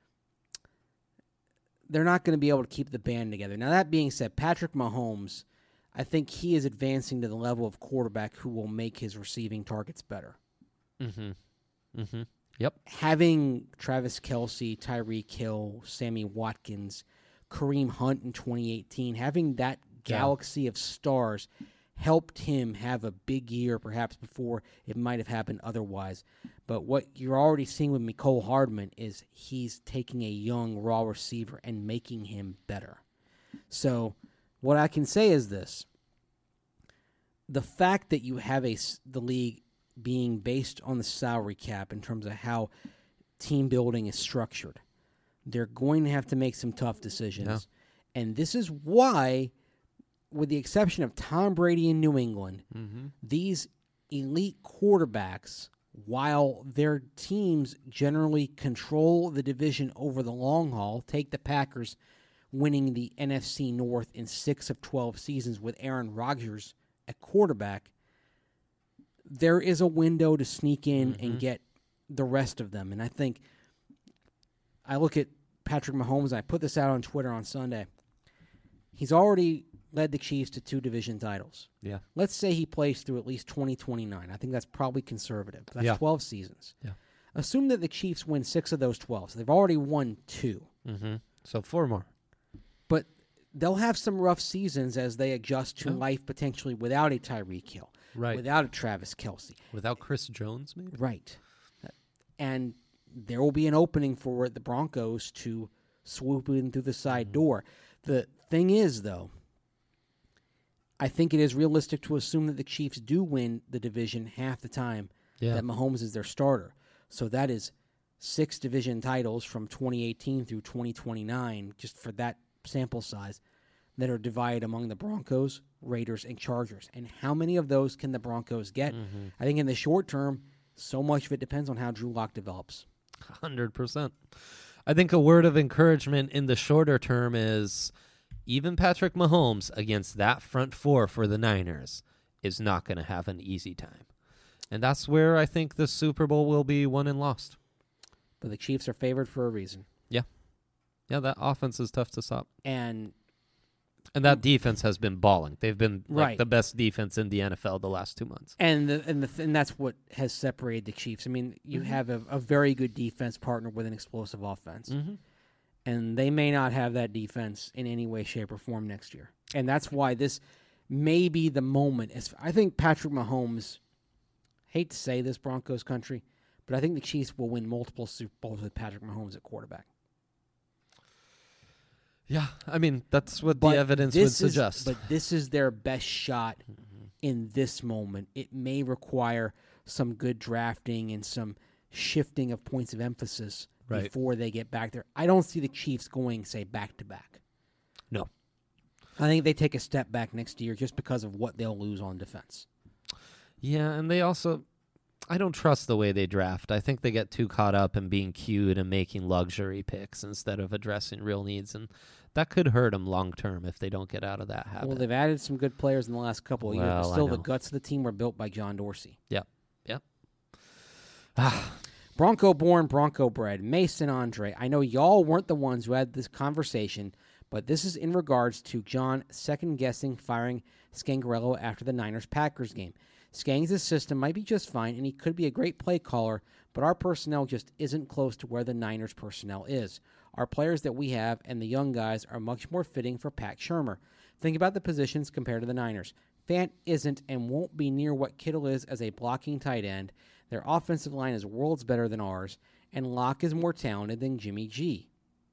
they're not going to be able to keep the band together. Now, that being said, Patrick Mahomes, I think he is advancing to the level of quarterback who will make his receiving targets better. Mm-hmm. Mm-hmm. Yep. Having Travis Kelce, Tyreek Hill, Sammy Watkins, Kareem Hunt in 2018, having that galaxy of stars helped him have a big year perhaps before it might have happened otherwise. But what you're already seeing with Mecole Hardman is he's taking a young raw receiver and making him better. So what I can say is this. The fact that you have the league being based on the salary cap in terms of how team building is structured, they're going to have to make some tough decisions. Yeah. And this is why, with the exception of Tom Brady in New England, these elite quarterbacks, while their teams generally control the division over the long haul, take the Packers winning the NFC North in 6 of 12 seasons with Aaron Rodgers at quarterback, there is a window to sneak in and get the rest of them. And I think I look at Patrick Mahomes, and I put this out on Twitter on Sunday. He's already led the Chiefs to 2 division titles. Yeah. Let's say he plays through at least 2029. I think that's probably conservative. That's 12 seasons. Yeah. Assume that the Chiefs win 6 of those 12. So they've already won 2. So 4 more. But they'll have some rough seasons as they adjust to life potentially without a Tyreek Hill. Right. Without a Travis Kelce. Without Chris Jones, maybe? Right. And there will be an opening for the Broncos to swoop in through the side door. The thing is, though, I think it is realistic to assume that the Chiefs do win the division half the time that Mahomes is their starter. So that is 6 division titles from 2018 through 2029, just for that sample size, that are divided among the Broncos, Raiders, and Chargers. And how many of those can the Broncos get? I think in the short term, so much of it depends on how Drew Lock develops. 100%. I think a word of encouragement in the shorter term is even Patrick Mahomes against that front 4 for the Niners is not going to have an easy time. And that's where I think the Super Bowl will be won and lost. But the Chiefs are favored for a reason. Yeah. Yeah, that offense is tough to stop. And And that defense has been balling. They've been Right. the best defense in the NFL the last 2 months. And that's what has separated the Chiefs. I mean, you have a very good defense partner with an explosive offense. And they may not have that defense in any way, shape, or form next year. And that's why this may be the moment. I think Patrick Mahomes, hate to say this, Broncos country, but I think the Chiefs will win multiple Super Bowls with Patrick Mahomes at quarterback. Yeah, I mean, that's what the evidence would suggest. But this is their best shot in this moment. It may require some good drafting and some shifting of points of emphasis before they get back there. I don't see the Chiefs going, say, back-to-back. No. I think they take a step back next year just because of what they'll lose on defense. Yeah, and they also, I don't trust the way they draft. I think they get too caught up in being cute and making luxury picks instead of addressing real needs, and that could hurt them long-term if they don't get out of that habit. Well, they've added some good players in the last couple of years, but still the guts of the team were built by John Dorsey. Yep. Bronco-born, Bronco-bred, Mason Andre. I know y'all weren't the ones who had this conversation, but this is in regards to John second-guessing firing Scangarello after the Niners-Packers game. Skangs' system might be just fine, and he could be a great play caller, but our personnel just isn't close to where the Niners' personnel is. Our players that we have and the young guys are much more fitting for Pat Shurmur. Think about the positions compared to the Niners. Fant isn't and won't be near what Kittle is as a blocking tight end. Their offensive line is worlds better than ours, and Locke is more talented than Jimmy G.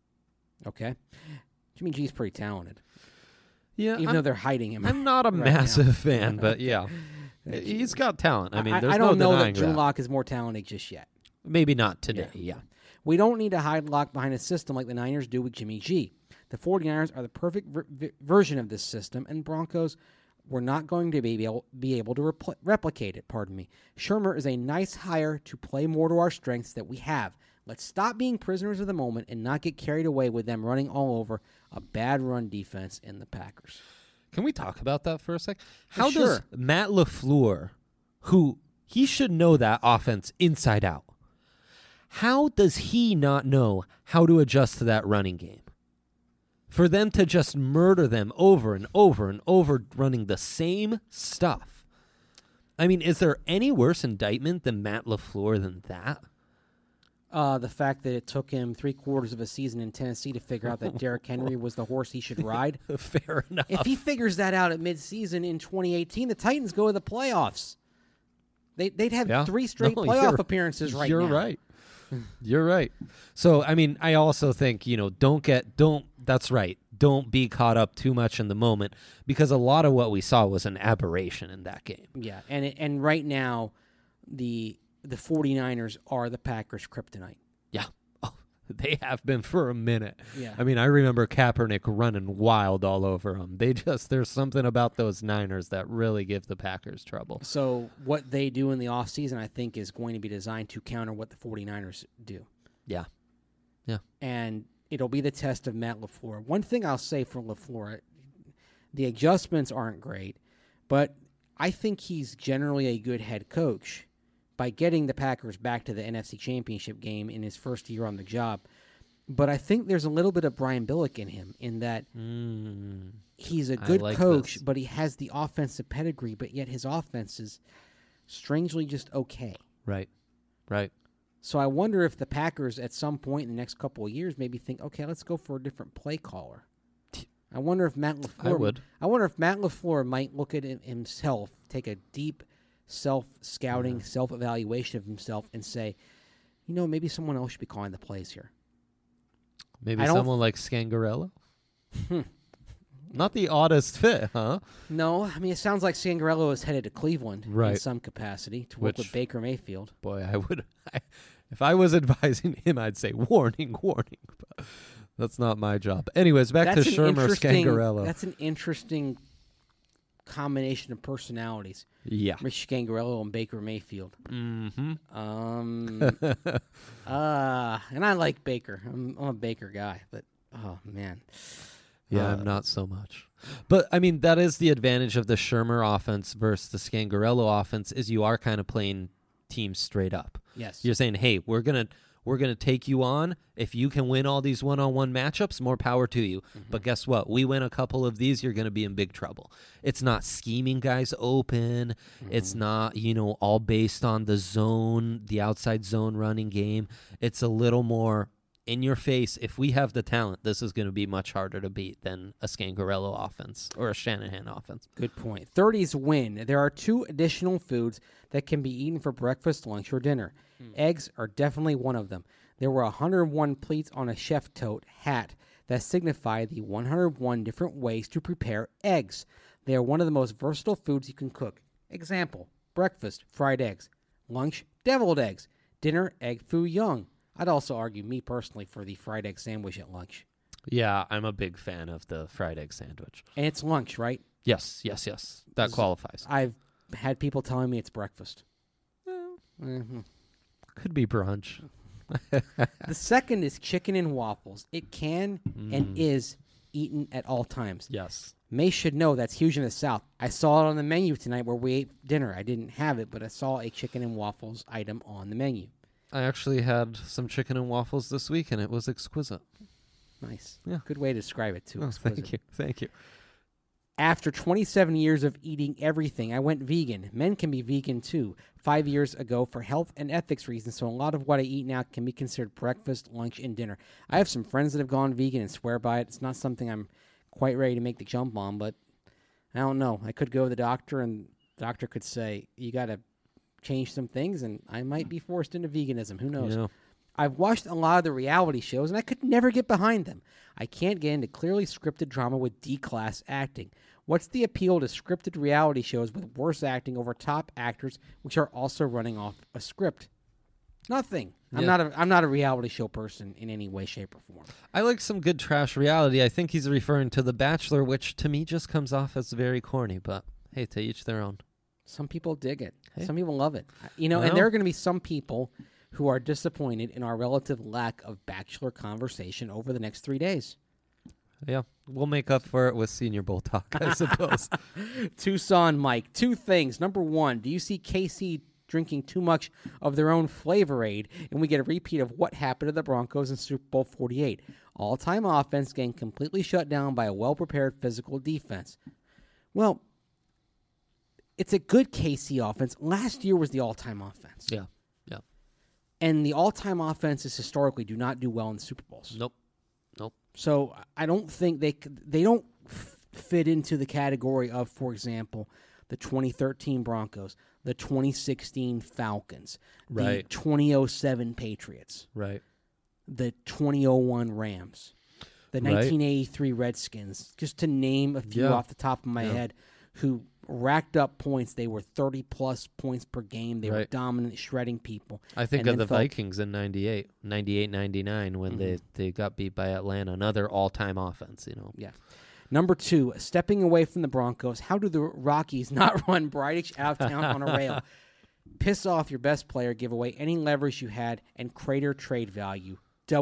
Okay? Jimmy G's pretty talented. Yeah, even though they're hiding him. I'm not a massive fan, but yeah. He's got talent. I mean, there's I don't no know that denying Drew Lock is more talented just yet. Maybe not today, yeah. We don't need to hide Lock behind a system like the Niners do with Jimmy G. The 49ers are the perfect version of this system, and Broncos were not going to be able to replicate it. Shurmur is a nice hire to play more to our strengths that we have. Let's stop being prisoners of the moment and not get carried away with them running all over a bad run defense in the Packers. Can we talk about that for a sec? How Sure. does Matt LaFleur, who he should know that offense inside out, how does he not know how to adjust to that running game? For them to just murder them over and over and over running the same stuff. I mean, is there any worse indictment than Matt LaFleur than that? The fact that it took him 3/4 of a season in Tennessee to figure out that Derrick Henry was the horse he should ride. Fair enough. If he figures that out at midseason in 2018, the Titans go to the playoffs. They'd have 3 straight playoff appearances right now. You're right. You're right. So, I mean, I also think, that's right. Don't be caught up too much in the moment, because a lot of what we saw was an aberration in that game. Yeah, and right now, the 49ers are the Packers' kryptonite. Yeah. Oh, they have been for a minute. Yeah. I mean, I remember Kaepernick running wild all over them. There's something about those Niners that really give the Packers trouble. So what they do in the offseason, I think, is going to be designed to counter what the 49ers do. Yeah. And it'll be the test of Matt LaFleur. One thing I'll say for LaFleur, the adjustments aren't great, but I think he's generally a good head coach. By getting the Packers back to the NFC Championship game in his first year on the job. But I think there's a little bit of Brian Billick in him in that he's a good coach, but he has the offensive pedigree, but yet his offense is strangely just okay. Right. So I wonder if the Packers at some point in the next couple of years maybe think, okay, let's go for a different play caller. I wonder if Matt LaFleur might look at himself, take a deep self-scouting, self-evaluation of himself and say, maybe someone else should be calling the plays here. Maybe someone like Scangarello? Not the oddest fit, huh? No, I mean, it sounds like Scangarello is headed to Cleveland in some capacity to work with Baker Mayfield. Boy, if I was advising him, I'd say, warning. But that's not my job. Anyways, back to Shurmur Scangarello. That's an interesting combination of personalities. Yeah. Rich Scangarello and Baker Mayfield. Mm-hmm. And I like Baker. I'm a Baker guy, but oh man. Yeah, I'm not so much. But I mean, that is the advantage of the Shurmur offense versus the Scangarello offense, is you are kind of playing teams straight up. Yes. You're saying, hey, we're We're going to take you on. If you can win all these one-on-one matchups, more power to you. But guess what? We win a couple of these, you're going to be in big trouble. It's not scheming guys open. It's not, all based on the zone, the outside zone running game. It's a little more in your face. If we have the talent, this is going to be much harder to beat than a Scangarello offense or a Shanahan offense. Good point. 30s win. There are 2 additional foods that can be eaten for breakfast, lunch, or dinner. Eggs are definitely one of them. There were 101 pleats on a chef tote hat that signify the 101 different ways to prepare eggs. They are one of the most versatile foods you can cook. Example, breakfast, fried eggs. Lunch, deviled eggs. Dinner, egg foo young. I'd also argue, me personally, for the fried egg sandwich at lunch. Yeah, I'm a big fan of the fried egg sandwich. And it's lunch, right? Yes. That qualifies. I've had people telling me it's breakfast. Could be brunch. The second is chicken and waffles. It can and is eaten at all times. Yes. May should know that's huge in the South. I saw it on the menu tonight where we ate dinner. I didn't have it, but I saw a chicken and waffles item on the menu. I actually had some chicken and waffles this week, and it was exquisite. Nice. Yeah. Good way to describe it, too. Oh, Exquisite. Thank you. After 27 years of eating everything, I went vegan. Men can be vegan, too. 5 years ago for health and ethics reasons, so a lot of what I eat now can be considered breakfast, lunch, and dinner. I have some friends that have gone vegan and swear by it. It's not something I'm quite ready to make the jump on, but I don't know. I could go to the doctor, and the doctor could say, you got to change some things, and I might be forced into veganism. Who knows? Yeah. I've watched a lot of the reality shows, and I could never get behind them. I can't get into clearly scripted drama with D-class acting. What's the appeal to scripted reality shows with worse acting over top actors, which are also running off a script? Nothing. Yeah. I'm not a reality show person in any way, shape, or form. I like some good trash reality. I think he's referring to The Bachelor, which to me just comes off as very corny, but hey, to each their own. Some people dig it. Hey. Some people love it. And Well. there are going to be some people who are disappointed in our relative lack of Bachelor conversation over the next 3 days. Yeah, we'll make up for it with Senior Bowl talk, I suppose. Tucson Mike, 2 things. Number 1, do you see KC drinking too much of their own Flavor Aid, and we get a repeat of what happened to the Broncos in Super Bowl 48? All-time offense getting completely shut down by a well-prepared physical defense. Well, it's a good KC offense. Last year was the all-time offense. Yeah. And the all-time offenses historically do not do well in Super Bowls. Nope. So I don't think they don't fit into the category of, for example, the 2013 Broncos, the 2016 Falcons, Right. the 2007 Patriots, Right. the 2001 Rams, the Right. 1983 Redskins, just to name a few Yeah. off the top of my head, who racked up points. They were 30-plus points per game. They were Right. dominant, shredding people. I think and of then the felt- Vikings in 99 when they got beat by Atlanta, another all-time offense, Yeah. Number 2, stepping away from the Broncos, how do the Rockies not run Bridich out of town on a rail? Piss off your best player, give away any leverage you had, and crater trade value.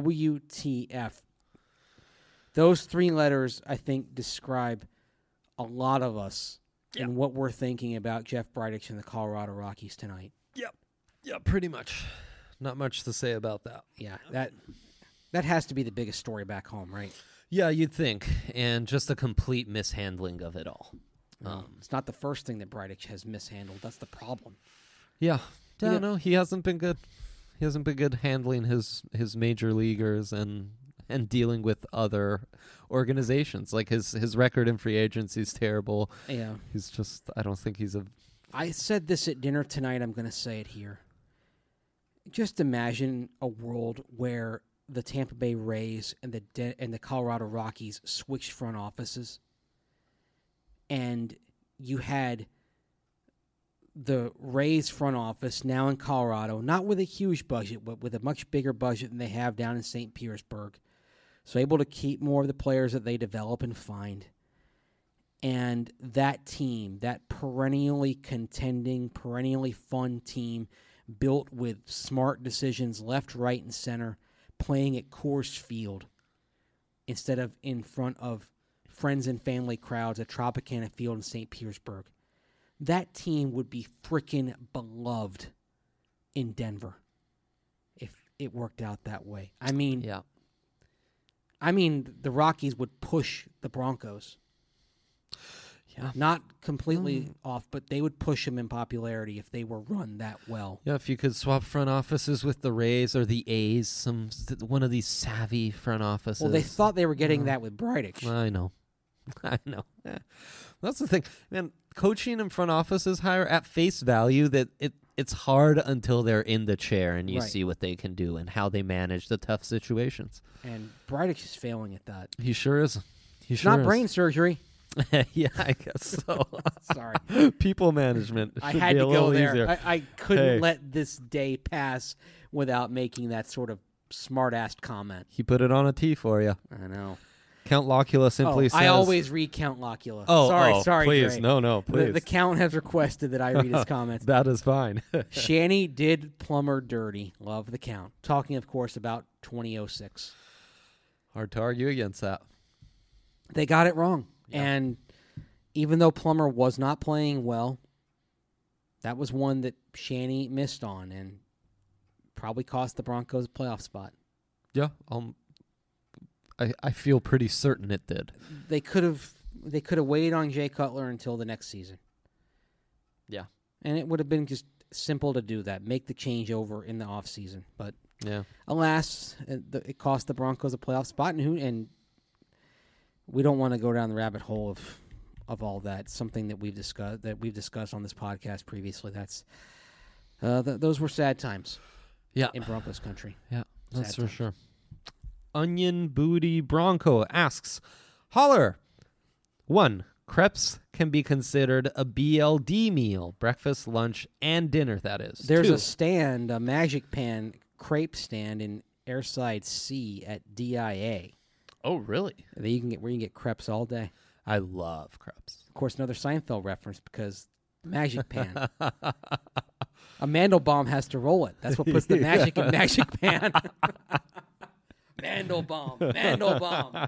WTF. Those 3 letters, I think, describe a lot of us and what we're thinking about Jeff Bridich and the Colorado Rockies tonight. Yeah, pretty much. Not much to say about that. Yeah, that has to be the biggest story back home, right? Yeah, you'd think, and just a complete mishandling of it all. It's not the first thing that Bridich has mishandled. That's the problem. Yeah, You know- no, he hasn't been good. He hasn't been good handling his major leaguers and dealing with other organizations. Like his record in free agency is terrible. Yeah. He's just, I don't think he's a. I said this at dinner tonight. I'm going to say it here. Just imagine a world where the Tampa Bay Rays and the Colorado Rockies switched front offices, and you had the Rays front office now in Colorado, not with a huge budget, but with a much bigger budget than they have down in St. Petersburg, so able to keep more of the players that they develop and find. And that team, that perennially contending, perennially fun team, built with smart decisions left, right, and center, playing at Coors Field instead of in front of friends and family crowds at Tropicana Field in St. Petersburg. That team would be freaking beloved in Denver it worked out that way. I mean, Yeah. The Rockies would push the Broncos. Yeah. Not completely off, but they would push them in popularity if they were run that well. Yeah, if you could swap front offices with the Rays or the A's, one of these savvy front offices. Well, they thought they were getting that with Bridich. I know. I know. Yeah. That's the thing. Man, coaching in front offices higher at face value, that it's hard until they're in the chair and you Right. see what they can do and how they manage the tough situations. And Bridich is failing at that. He sure is. He It's sure not is. brain surgery. Yeah, I guess so. Sorry. People management I should had be to a little go there. easier. I couldn't Hey. let this day pass without making that sort of smart-ass comment. He put it on a tee for you. I know. Count Locula simply says... I always recount Locula. Oh, sorry, please. Dre. No, please. The count has requested that I read his comments. That is fine. Shanny did Plummer dirty. Love the count. Talking, of course, about 2006. Hard to argue against that. They got it wrong. Yeah. And even though Plummer was not playing well, that was one that Shanny missed on and probably cost the Broncos a playoff spot. Yeah, I feel pretty certain it did. They could have waited on Jay Cutler until the next season. Yeah. And it would have been just simple to do that, make the changeover in the offseason. But Yeah. alas, it cost the Broncos a playoff spot, and we don't want to go down the rabbit hole of all that. Something that we've discussed on this podcast previously. That's those were sad times. Yeah. In Broncos country. Yeah, that's Sad for times. sure. Onion Booty Bronco asks, Holler, 1, crepes can be considered a BLD meal, breakfast, lunch, and dinner, that is. There's 2, a stand, a Magic Pan crepe stand in Airside C at DIA. Oh, really? That you can get where you can get crepes all day. I love crepes. Of course, another Seinfeld reference because Magic Pan. A Mandelbaum has to roll it. That's what puts the magic in Magic Pan. Mandelbaum.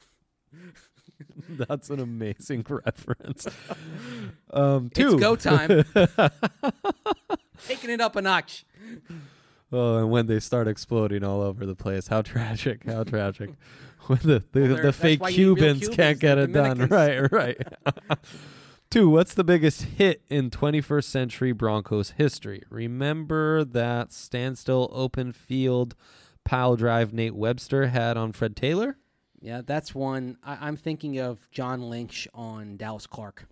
That's an amazing reference. 2. It's go time. Taking it up a notch. Oh, and when they start exploding all over the place. How tragic. How tragic. When the that's fake why you need real Cubans can't Cubans, get the it done. Dominicans. Right. 2, what's the biggest hit in 21st century Broncos history? Remember that standstill open field pile drive Nate Webster had on Fred Taylor? Yeah, that's one. I'm thinking of John Lynch on Dallas Clark.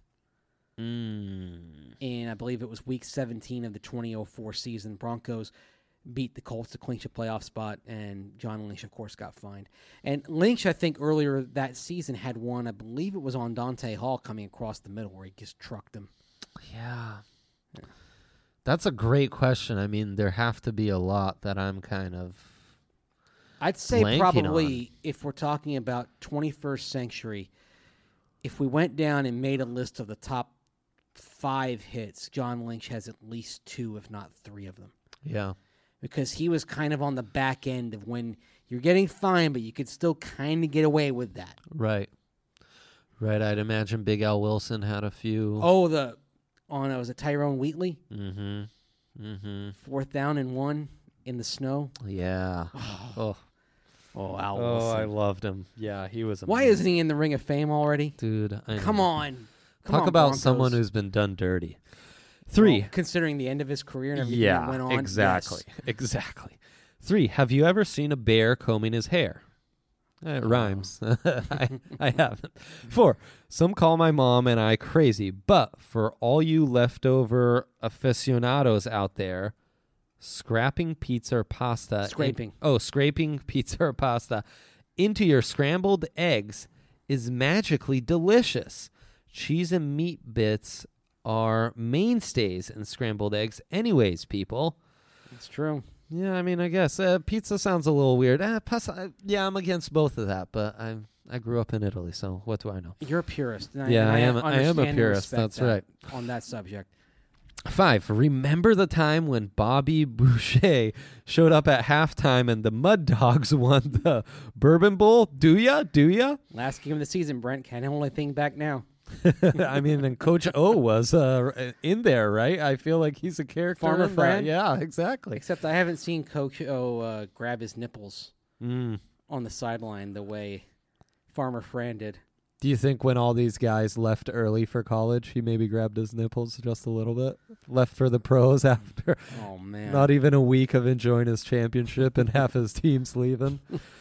And I believe it was week 17 of the 2004 season. Broncos beat the Colts to clinch a playoff spot, and John Lynch, of course, got fined. And Lynch, I think, earlier that season had one. I believe it was on Dante Hall coming across the middle where he just trucked him. Yeah. That's a great question. I mean, there have to be a lot that I'm kind of... I'd say blanking probably, if we're talking about 21st century, if we went down and made a list of the top 5 hits, John Lynch has at least 2, if not 3 of them. Yeah. Because he was kind of on the back end of when you're getting fined, but you could still kind of get away with that. Right. I'd imagine Big Al Wilson had a few. Oh, was it Tyrone Wheatley? Mm-hmm. 4th down and 1 in the snow. Yeah. Oh, Al Oh, Wilson. I loved him. Yeah, he was amazing. Why isn't he in the Ring of Fame already? Dude, I Come know. on. Talk about Broncos. someone who's been done dirty. 3. Well, considering the end of his career and everything that went on. Exactly. yes. Exactly. 3. Have you ever seen a bear combing his hair? It rhymes. I haven't. 4. Some call my mom and I crazy, but for all you leftover aficionados out there, scraping pizza or pasta. Scraping pizza or pasta into your scrambled eggs is magically delicious. Cheese and meat bits are mainstays in scrambled eggs anyways, people. It's true. Yeah, I mean, I guess pizza sounds a little weird. Pasta, yeah, I'm against both of that, but I grew up in Italy, so what do I know? You're a purist. And Yeah, I am a understand and purist, respect that's that right. On that subject. 5, remember the time when Bobby Boucher showed up at halftime and the Mud Dogs won the Bourbon Bowl? Do ya? Last game of the season, Brent. Can't hold anything back now. I mean, and Coach O was in there, right? I feel like he's a character. Farmer in that. Fran? Yeah, exactly. Except I haven't seen Coach O grab his nipples Mm. on the sideline the way Farmer Fran did. Do you think when all these guys left early for college, he maybe grabbed his nipples just a little bit? Left for the pros after Oh, man. not even a week of enjoying his championship and half his team's leaving?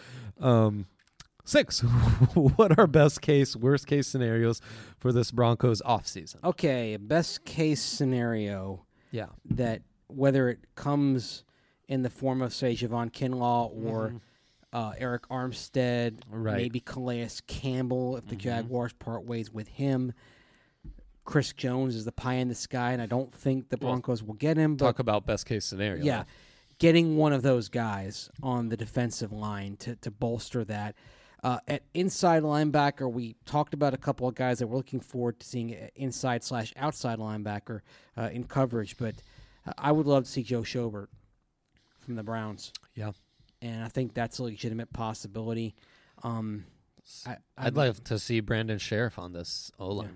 6. What are best case, worst case scenarios for this Broncos offseason? Okay, best case scenario Yeah. that whether it comes in the form of, say, Javon Kinlaw or Eric Armstead, Right. maybe Calais Campbell if the Jaguars part ways with him. Chris Jones is the pie in the sky, and I don't think the Broncos will get him. But Talk about best case scenario. yeah, getting one of those guys on the defensive line to bolster that. At inside linebacker, we talked about a couple of guys that we're looking forward to seeing inside/outside linebacker in coverage, but I would love to see Joe Schobert from the Browns. Yeah. And I think that's a legitimate possibility. I'd love to see Brandon Sheriff on this O-line.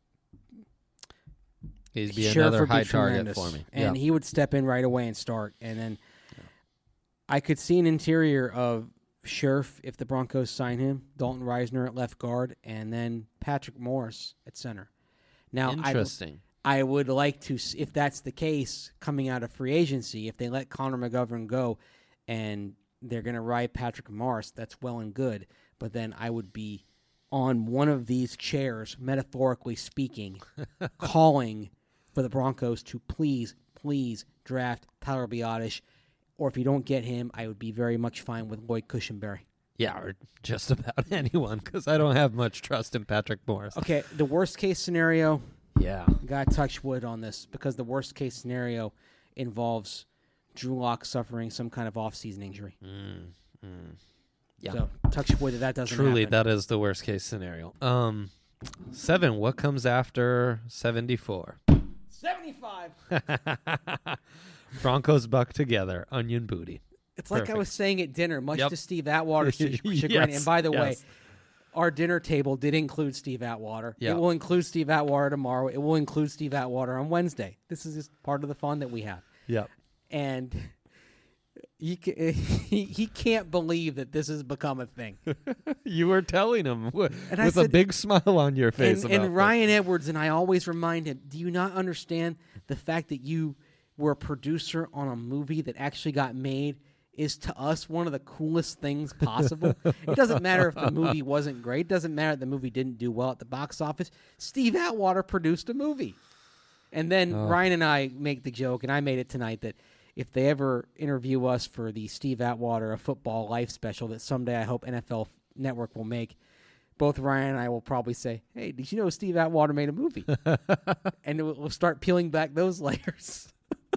He'd be Sheriff another would be high target tremendous. for me. And he would step in right away and start. And then I could see an interior of Sheriff if the Broncos sign him, Dalton Reisner at left guard, and then Patrick Morris at center. Now, Interesting. I would like to, if that's the case, coming out of free agency, if they let Connor McGovern go and they're going to ride Patrick Morris, that's well and good. But then I would be on one of these chairs, metaphorically speaking, calling for the Broncos to please draft Tyler Biadasz. Or if you don't get him, I would be very much fine with Lloyd Cushenberry. Yeah, or just about anyone, because I don't have much trust in Patrick Morris. Okay, the worst case scenario, Yeah. got to touch wood on this, because the worst case scenario involves Drew Lock suffering some kind of offseason injury. Yeah. So touch wood that doesn't Truly, happen. that is the worst case scenario. 7. What comes after 74? 75. Broncos buck together. Onion booty. It's like I Perfect. was saying at dinner, much Yep. to Steve Atwater's chagrin. Yes, And by the way, yes. our dinner table did include Steve Atwater. Yeah. It will include Steve Atwater tomorrow. It will include Steve Atwater on Wednesday. This is just part of the fun that we have. Yep. And he can't believe that this has become a thing. You were telling him And I with a said- big smile on your face. about And Ryan Edwards and I always remind him, do you not understand the fact that you were a producer on a movie that actually got made is to us one of the coolest things possible? It doesn't matter if the movie wasn't great. It doesn't matter if the movie didn't do well at the box office. Steve Atwater produced a movie. And then Ryan and I make the joke, and I made it tonight, that if they ever interview us for the Steve Atwater A Football Life special that someday I hope NFL Network will make, both Ryan and I will probably say, hey, did you know Steve Atwater made a movie? And we'll start peeling back those layers.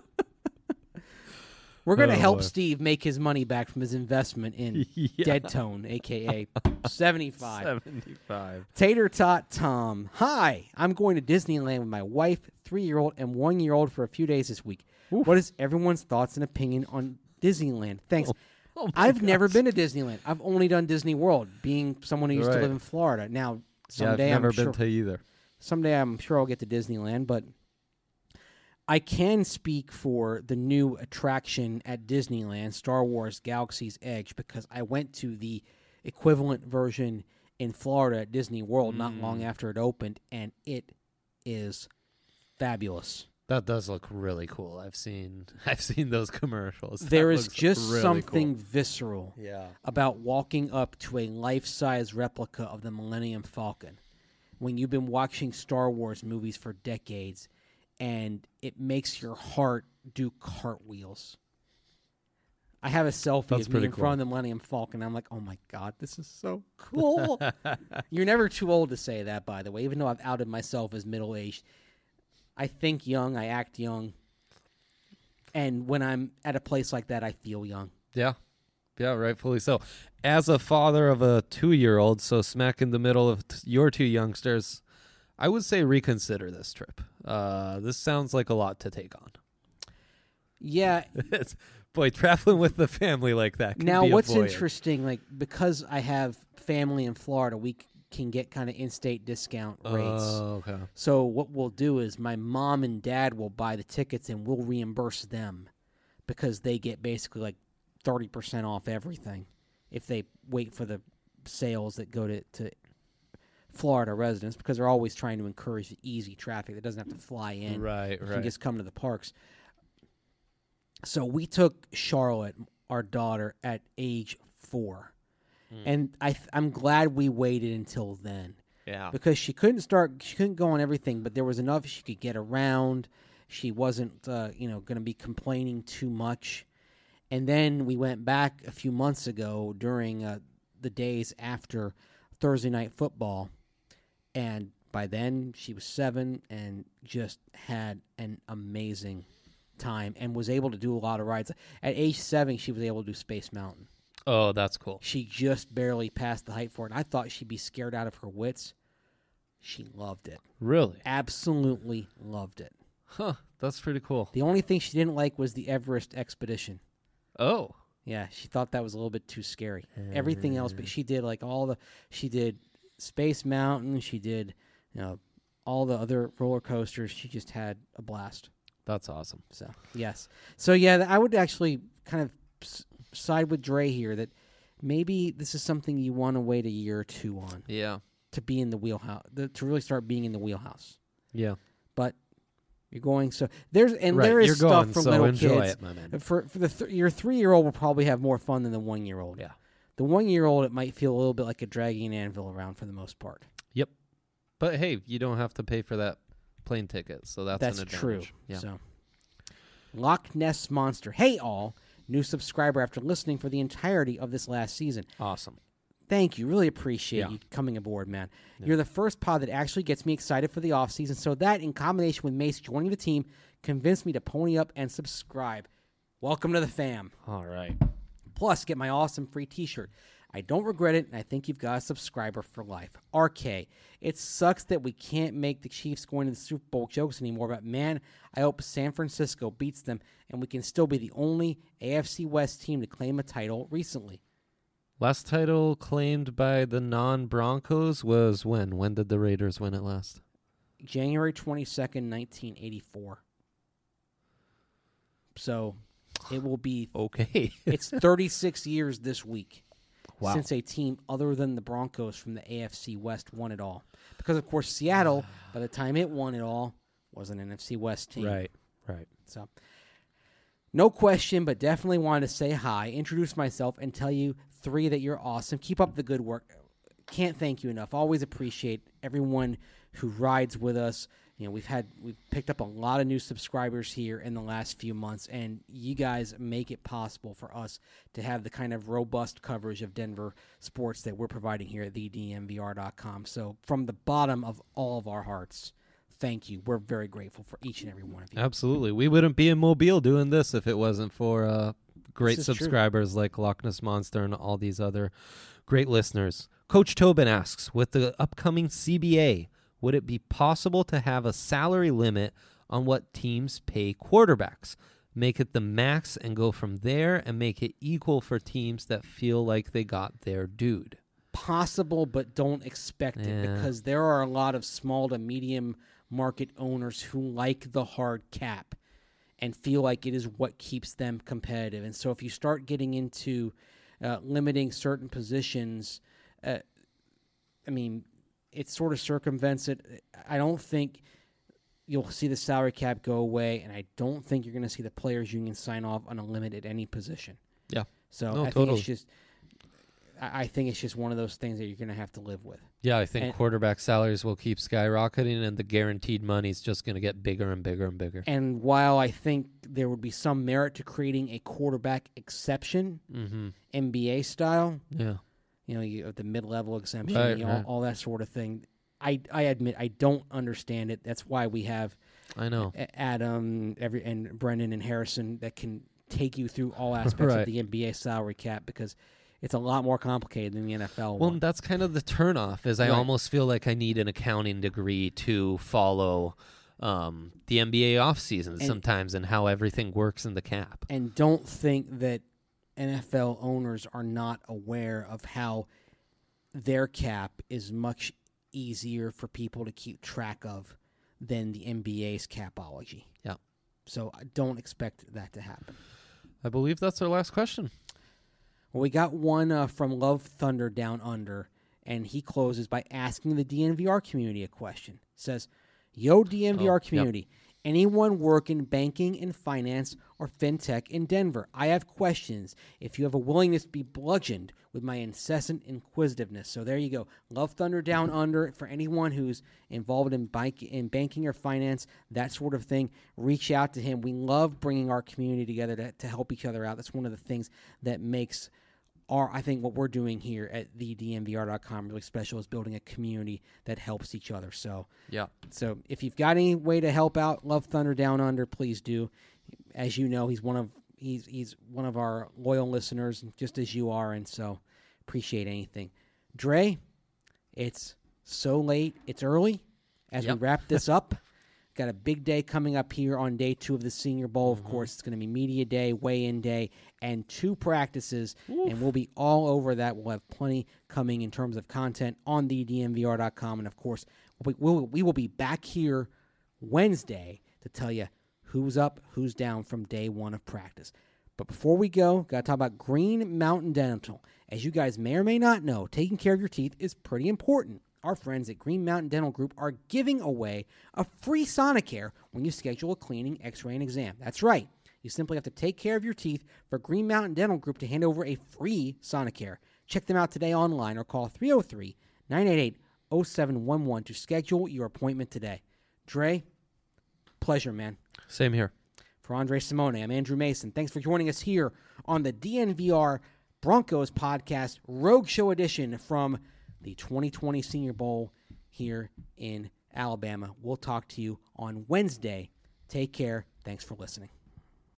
We're going to help boy. Steve make his money back from his investment in Dead Tone, a.k.a. 75. 75. Tater Tot Tom. Hi, I'm going to Disneyland with my wife, 3-year-old, and 1-year-old for a few days this week. What is everyone's thoughts and opinion on Disneyland? Thanks. Oh my I've never been to Disneyland. I've only done Disney World, being someone who used to Right. live in Florida. Now, Yeah, I've someday never I'm been sure to either. someday I'm sure I'll get to Disneyland, but I can speak for the new attraction at Disneyland, Star Wars Galaxy's Edge, because I went to the equivalent version in Florida at Disney World not long after it opened, and it is fabulous. That does look really cool. I've seen those commercials. There That is looks just really something cool. visceral Yeah. about walking up to a life-size replica of the Millennium Falcon when you've been watching Star Wars movies for decades, and it makes your heart do cartwheels. I have a selfie That's of me pretty in front of the Millennium Falcon. I'm like, oh my God, this is so cool. You're never too old to say that, by the way, even though I've outed myself as middle-aged. I think young, I act young, and when I'm at a place like that, I feel young. Yeah. Yeah, rightfully so. As a father of a 2-year-old, so smack in the middle of your 2 youngsters, I would say reconsider this trip. This sounds like a lot to take on. Yeah. Boy, traveling with the family like that can Now, be a what's voyage. interesting, like, because I have family in Florida, we can get kind of in-state discount rates. Oh, okay. So what we'll do is my mom and dad will buy the tickets and we'll reimburse them because they get basically like 30% off everything if they wait for the sales that go to Florida residents, because they're always trying to encourage easy traffic that doesn't have to fly in. Right. You can just come to the parks. So we took Charlotte, our daughter, at age 4. And I'm glad we waited until then. Yeah. Because she couldn't go on everything, but there was enough she could get around. She wasn't, going to be complaining too much. And then we went back a few months ago during the days after Thursday Night Football. And by then, she was 7 and just had an amazing time and was able to do a lot of rides. At age 7, she was able to do Space Mountain. Oh, that's cool. She just barely passed the height for it. And I thought she'd be scared out of her wits. She loved it. Really? Absolutely loved it. Huh. That's pretty cool. The only thing she didn't like was the Everest expedition. Oh. Yeah, she thought that was a little bit too scary. Everything else, but she did like she did Space Mountain, she did, all the other roller coasters. She just had a blast. That's awesome. So, yes. So, yeah, I would actually kind of side with Dre here that maybe this is something you want to wait a year or 2 on. Yeah. To be in the wheelhouse, to really start being in the wheelhouse. Yeah. But you're going there is you're stuff going, for so little enjoy kids. it, my man. For your 3-year-old will probably have more fun than the 1-year-old. Yeah. The 1-year-old, it might feel a little bit like a dragging an anvil around for the most part. Yep. But hey, you don't have to pay for that plane ticket, so that's an advantage. True. Yeah. So, Loch Ness Monster. Hey all, new subscriber after listening for the entirety of this last season. Awesome. Thank you. Really appreciate you coming aboard, man. Yeah. You're the first pod that actually gets me excited for the offseason, so that, in combination with Mace joining the team, convinced me to pony up and subscribe. Welcome to the fam. All right. Plus, get my awesome free t-shirt. I don't regret it, and I think you've got a subscriber for life. RK, it sucks that we can't make the Chiefs going to the Super Bowl jokes anymore, but man, I hope San Francisco beats them, and we can still be the only AFC West team to claim a title recently. Last title claimed by the non-Broncos was when? When did the Raiders win it last? January 22nd, 1984. So it will be... Okay. It's 36 years this week since a team other than the Broncos from the AFC West won it all. Because, of course, Seattle, by the time it won it all, was an NFC West team. Right. So, no question, but definitely wanted to say hi, introduce myself, and tell you 3 that you're awesome. Keep up the good work. Can't thank you enough. Always appreciate everyone who rides with us. We've picked up a lot of new subscribers here in the last few months, and you guys make it possible for us to have the kind of robust coverage of Denver sports that we're providing here at thednvr.com. So from the bottom of all of our hearts, thank you. We're very grateful for each and every one of you. Absolutely. We wouldn't be in Mobile doing this if it wasn't for great subscribers like Loch Ness Monster and all these other great listeners. Coach Tobin asks, with the upcoming CBA, would it be possible to have a salary limit on what teams pay quarterbacks? Make it the max and go from there, and make it equal for teams that feel like they got their dude. Possible, but don't expect it, because there are a lot of small to medium market owners who like the hard cap and feel like it is what keeps them competitive. And so if you start getting into limiting certain positions, it sort of circumvents it. I don't think you'll see the salary cap go away, and I don't think you're going to see the players union sign off on a limit at any position. Yeah. So I think it's just one of those things that you're going to have to live with. Yeah, I think quarterback salaries will keep skyrocketing, and the guaranteed money is just going to get bigger and bigger and bigger. And while I think there would be some merit to creating a quarterback exception, NBA style, you have the mid-level exemption, all that sort of thing. I admit I don't understand it. That's why we have Adam, and Brendan and Harrison that can take you through all aspects of the NBA salary cap, because it's a lot more complicated than the NFL Well, one. That's kind of the turnoff, is I almost feel like I need an accounting degree to follow the NBA offseason sometimes and how everything works in the cap. And don't think that NFL owners are not aware of how their cap is much easier for people to keep track of than the NBA's capology. Yeah. So I don't expect that to happen. I believe that's our last question. Well, we got one from Love Thunder Down Under, and he closes by asking the DNVR community a question. Says, yo, DNVR community, anyone work in banking and finance or fintech in Denver? I have questions if you have a willingness to be bludgeoned with my incessant inquisitiveness. So there you go. Love Thunder Down Under. For anyone who's involved in banking or finance, that sort of thing, reach out to him. We love bringing our community together to help each other out. That's one of the things that makes I think what we're doing here at thednvr.com really special, is building a community that helps each other. So if you've got any way to help out Love Thunder Down Under, please do. As you know, he's one of our loyal listeners, just as you are, and so appreciate anything. Dre, it's so late. It's early as we wrap this up. Got a big day coming up here on day 2 of the Senior Bowl. Of course, it's going to be media day, weigh-in day, and 2 practices, and we'll be all over that. We'll have plenty coming in terms of content on thednvr.com, and of course, we will be back here Wednesday to tell you who's up, who's down from day 1 of practice. But before we go, got to talk about Green Mountain Dental. As you guys may or may not know, taking care of your teeth is pretty important. Our friends at Green Mountain Dental Group are giving away a free Sonicare when you schedule a cleaning, x-ray, and exam. That's right. You simply have to take care of your teeth for Green Mountain Dental Group to hand over a free Sonicare. Check them out today online or call 303-988-0711 to schedule your appointment today. Dre, pleasure, man. Same here. For Andre Simone, I'm Andrew Mason. Thanks for joining us here on the DNVR Broncos podcast, Rogue Show edition from the 2020 Senior Bowl here in Alabama. We'll talk to you on Wednesday. Take care. Thanks for listening.